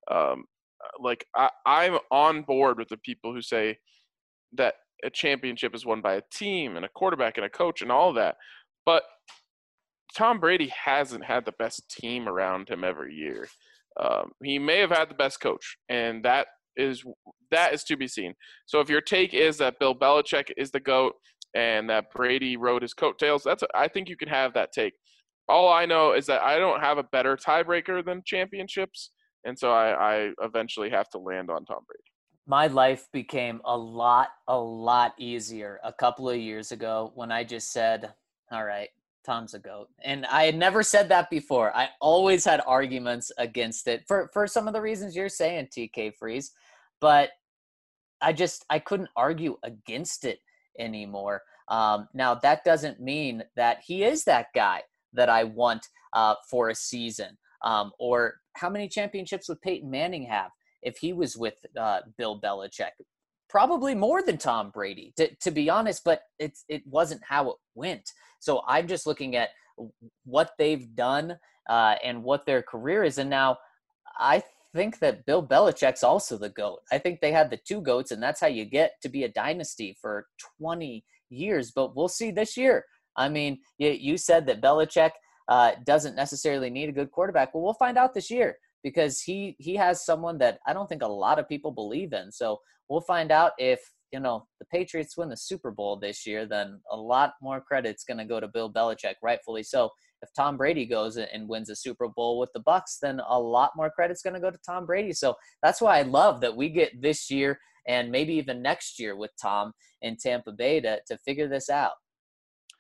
I'm on board with the people who say that a championship is won by a team and a quarterback and a coach and all of that. But Tom Brady hasn't had the best team around him every year. He may have had the best coach, and that is to be seen. So if your take is that Bill Belichick is the GOAT and that Brady rode his coattails, I think you can have that take. All I know is that I don't have a better tiebreaker than championships, and so I eventually have to land on Tom Brady. My life became a lot easier a couple of years ago when I just said, all right, Tom's a GOAT. And I had never said that before. I always had arguments against it for some of the reasons you're saying, TK Freeze. But I couldn't argue against it anymore. Now, that doesn't mean that he is that guy that I want for a season. Or how many championships would Peyton Manning have if he was with Bill Belichick? Probably more than Tom Brady, to be honest, but it wasn't how it went. So I'm just looking at what they've done and what their career is. And now I think that Bill Belichick's also the GOAT. I think they had the two GOATs, and that's how you get to be a dynasty for 20 years. But we'll see this year. I mean, you said that Belichick doesn't necessarily need a good quarterback. Well, we'll find out this year, because he has someone that I don't think a lot of people believe in. So we'll find out if, the Patriots win the Super Bowl this year, then a lot more credit's going to go to Bill Belichick, rightfully so. If Tom Brady goes and wins a Super Bowl with the Bucs, then a lot more credit's going to go to Tom Brady. So that's why I love that we get this year and maybe even next year with Tom in Tampa Bay to figure this out.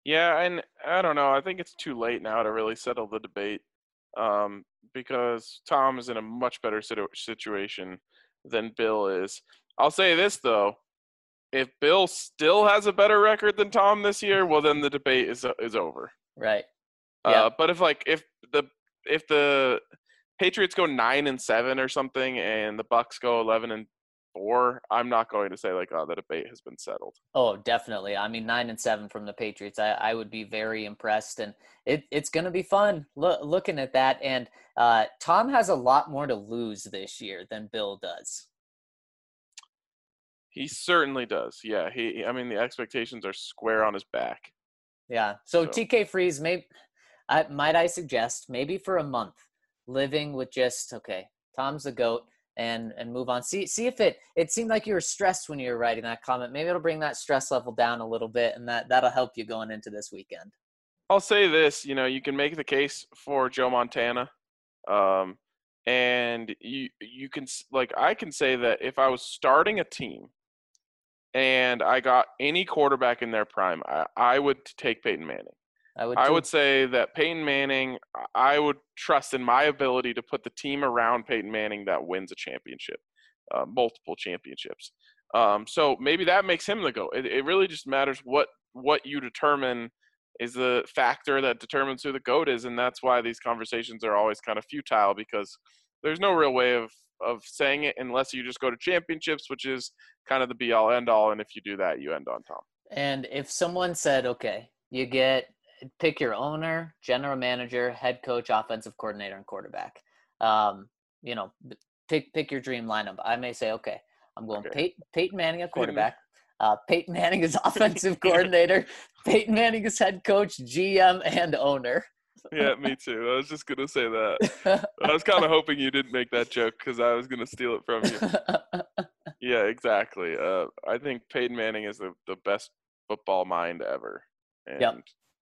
Yeah, and I don't know. I think it's too late now to really settle the debate, because Tom is in a much better situation than Bill is. I'll say this though: if Bill still has a better record than Tom this year, well, then the debate is over. Right. Yeah. But if the Patriots go 9-7 or something, and the Bucks go 11-4, I'm not going to say like, oh, the debate has been settled. Oh, definitely. I mean, 9-7 from the Patriots. I would be very impressed, and it's going to be fun looking at that. And Tom has a lot more to lose this year than Bill does. He certainly does. Yeah. I mean, the expectations are square on his back. Yeah. So TK Freeze, might I suggest maybe for a month living with just, okay, Tom's the GOAT, and move on. See if it seemed like you were stressed when you were writing that comment. Maybe it'll bring that stress level down a little bit, and that'll help you going into this weekend. I'll say this, you can make the case for Joe Montana. And you can, like, I can say that if I was starting a team and I got any quarterback in their prime, I would take Peyton Manning. I would say that Peyton Manning, I would trust in my ability to put the team around Peyton Manning that wins a championship, multiple championships. So maybe that makes him the GOAT. It really just matters what you determine is the factor that determines who the GOAT is, and that's why these conversations are always kind of futile, because there's no real way of saying it unless you just go to championships, which is kind of the be-all, end-all, and if you do that, you end on Tom. And if someone said, okay, you pick your owner, general manager, head coach, offensive coordinator, and quarterback, pick your dream lineup. I may say, okay, I'm going Peyton Manning at quarterback, Peyton Manning is offensive coordinator, Peyton Manning is head coach, GM, and owner. Yeah, me too. I was just going to say that. I was kind of hoping you didn't make that joke because I was going to steal it from you. Yeah, exactly. I think Peyton Manning is the best football mind ever. And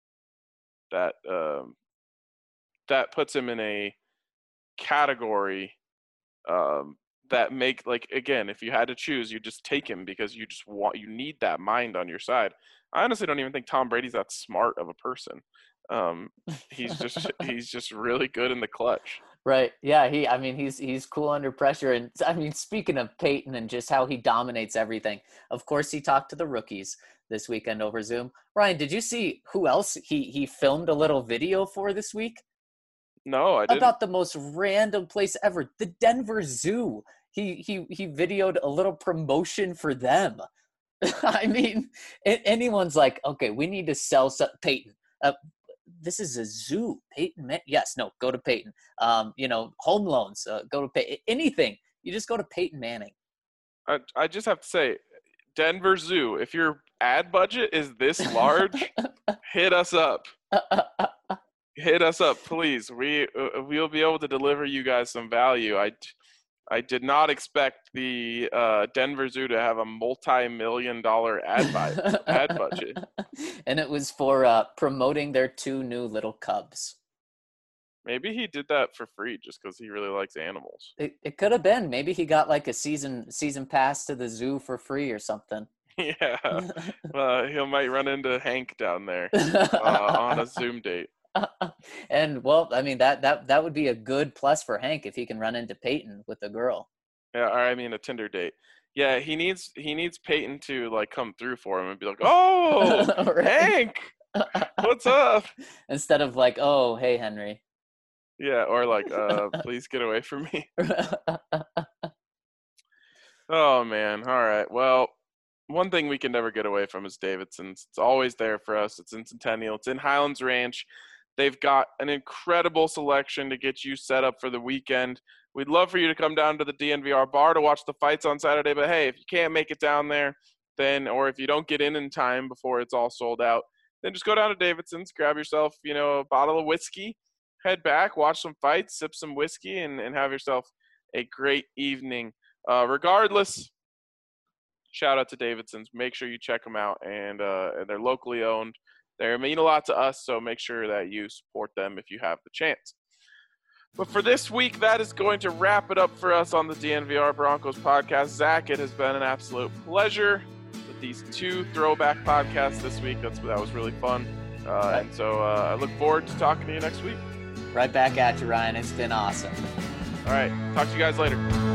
that puts him in a category that make, like, again, if you had to choose, you just take him because you need that mind on your side. I honestly don't even think Tom Brady's that smart of a person. He's just really good in the clutch. Right. Yeah. He's cool under pressure. And I mean, speaking of Peyton and just how he dominates everything, of course, he talked to the rookies this weekend over Zoom. Ryan, did you see who else he filmed a little video for this week? No, I didn't. About the most random place ever, the Denver Zoo. He videoed a little promotion for them. I mean, anyone's like, okay, we need to sell Peyton. This is a zoo. Peyton, yes, no, go to Peyton. Home loans, go to Peyton. Anything, you just go to Peyton Manning. I just have to say, Denver Zoo, if your ad budget is this large, hit us up. Hit us up, please. We'll be able to deliver you guys some value. I did not expect the Denver Zoo to have a multi-million-dollar ad budget. And it was for promoting their 2 new little cubs. Maybe he did that for free just because he really likes animals. It could have been. Maybe he got like a season pass to the zoo for free or something. Yeah. He might run into Hank down there on a Zoom date. And well, I mean that would be a good plus for Hank if he can run into Peyton with a girl. Yeah, or I mean a Tinder date. Yeah, he needs Peyton to like come through for him and be like, "Oh, right. Hank, what's up?" Instead of like, "Oh, hey, Henry." Yeah, or like, "Please get away from me." Oh man, all right. Well, one thing we can never get away from is Davidson's. It's always there for us. It's in Centennial. It's in Highlands Ranch. They've got an incredible selection to get you set up for the weekend. We'd love for you to come down to the DNVR bar to watch the fights on Saturday. But, hey, if you can't make it down there, or if you don't get in time before it's all sold out, then just go down to Davidson's, grab yourself, a bottle of whiskey, head back, watch some fights, sip some whiskey, and have yourself a great evening. Regardless, shout out to Davidson's. Make sure you check them out, and they're locally owned. They mean a lot to us, so make sure that you support them if you have the chance. But for this week, that is going to wrap it up for us on the DNVR Broncos podcast. Zach, it has been an absolute pleasure with these 2 throwback podcasts this week. That was really fun. And so I look forward to talking to you next week. Right back at you, Ryan. It's been awesome. All right. Talk to you guys later.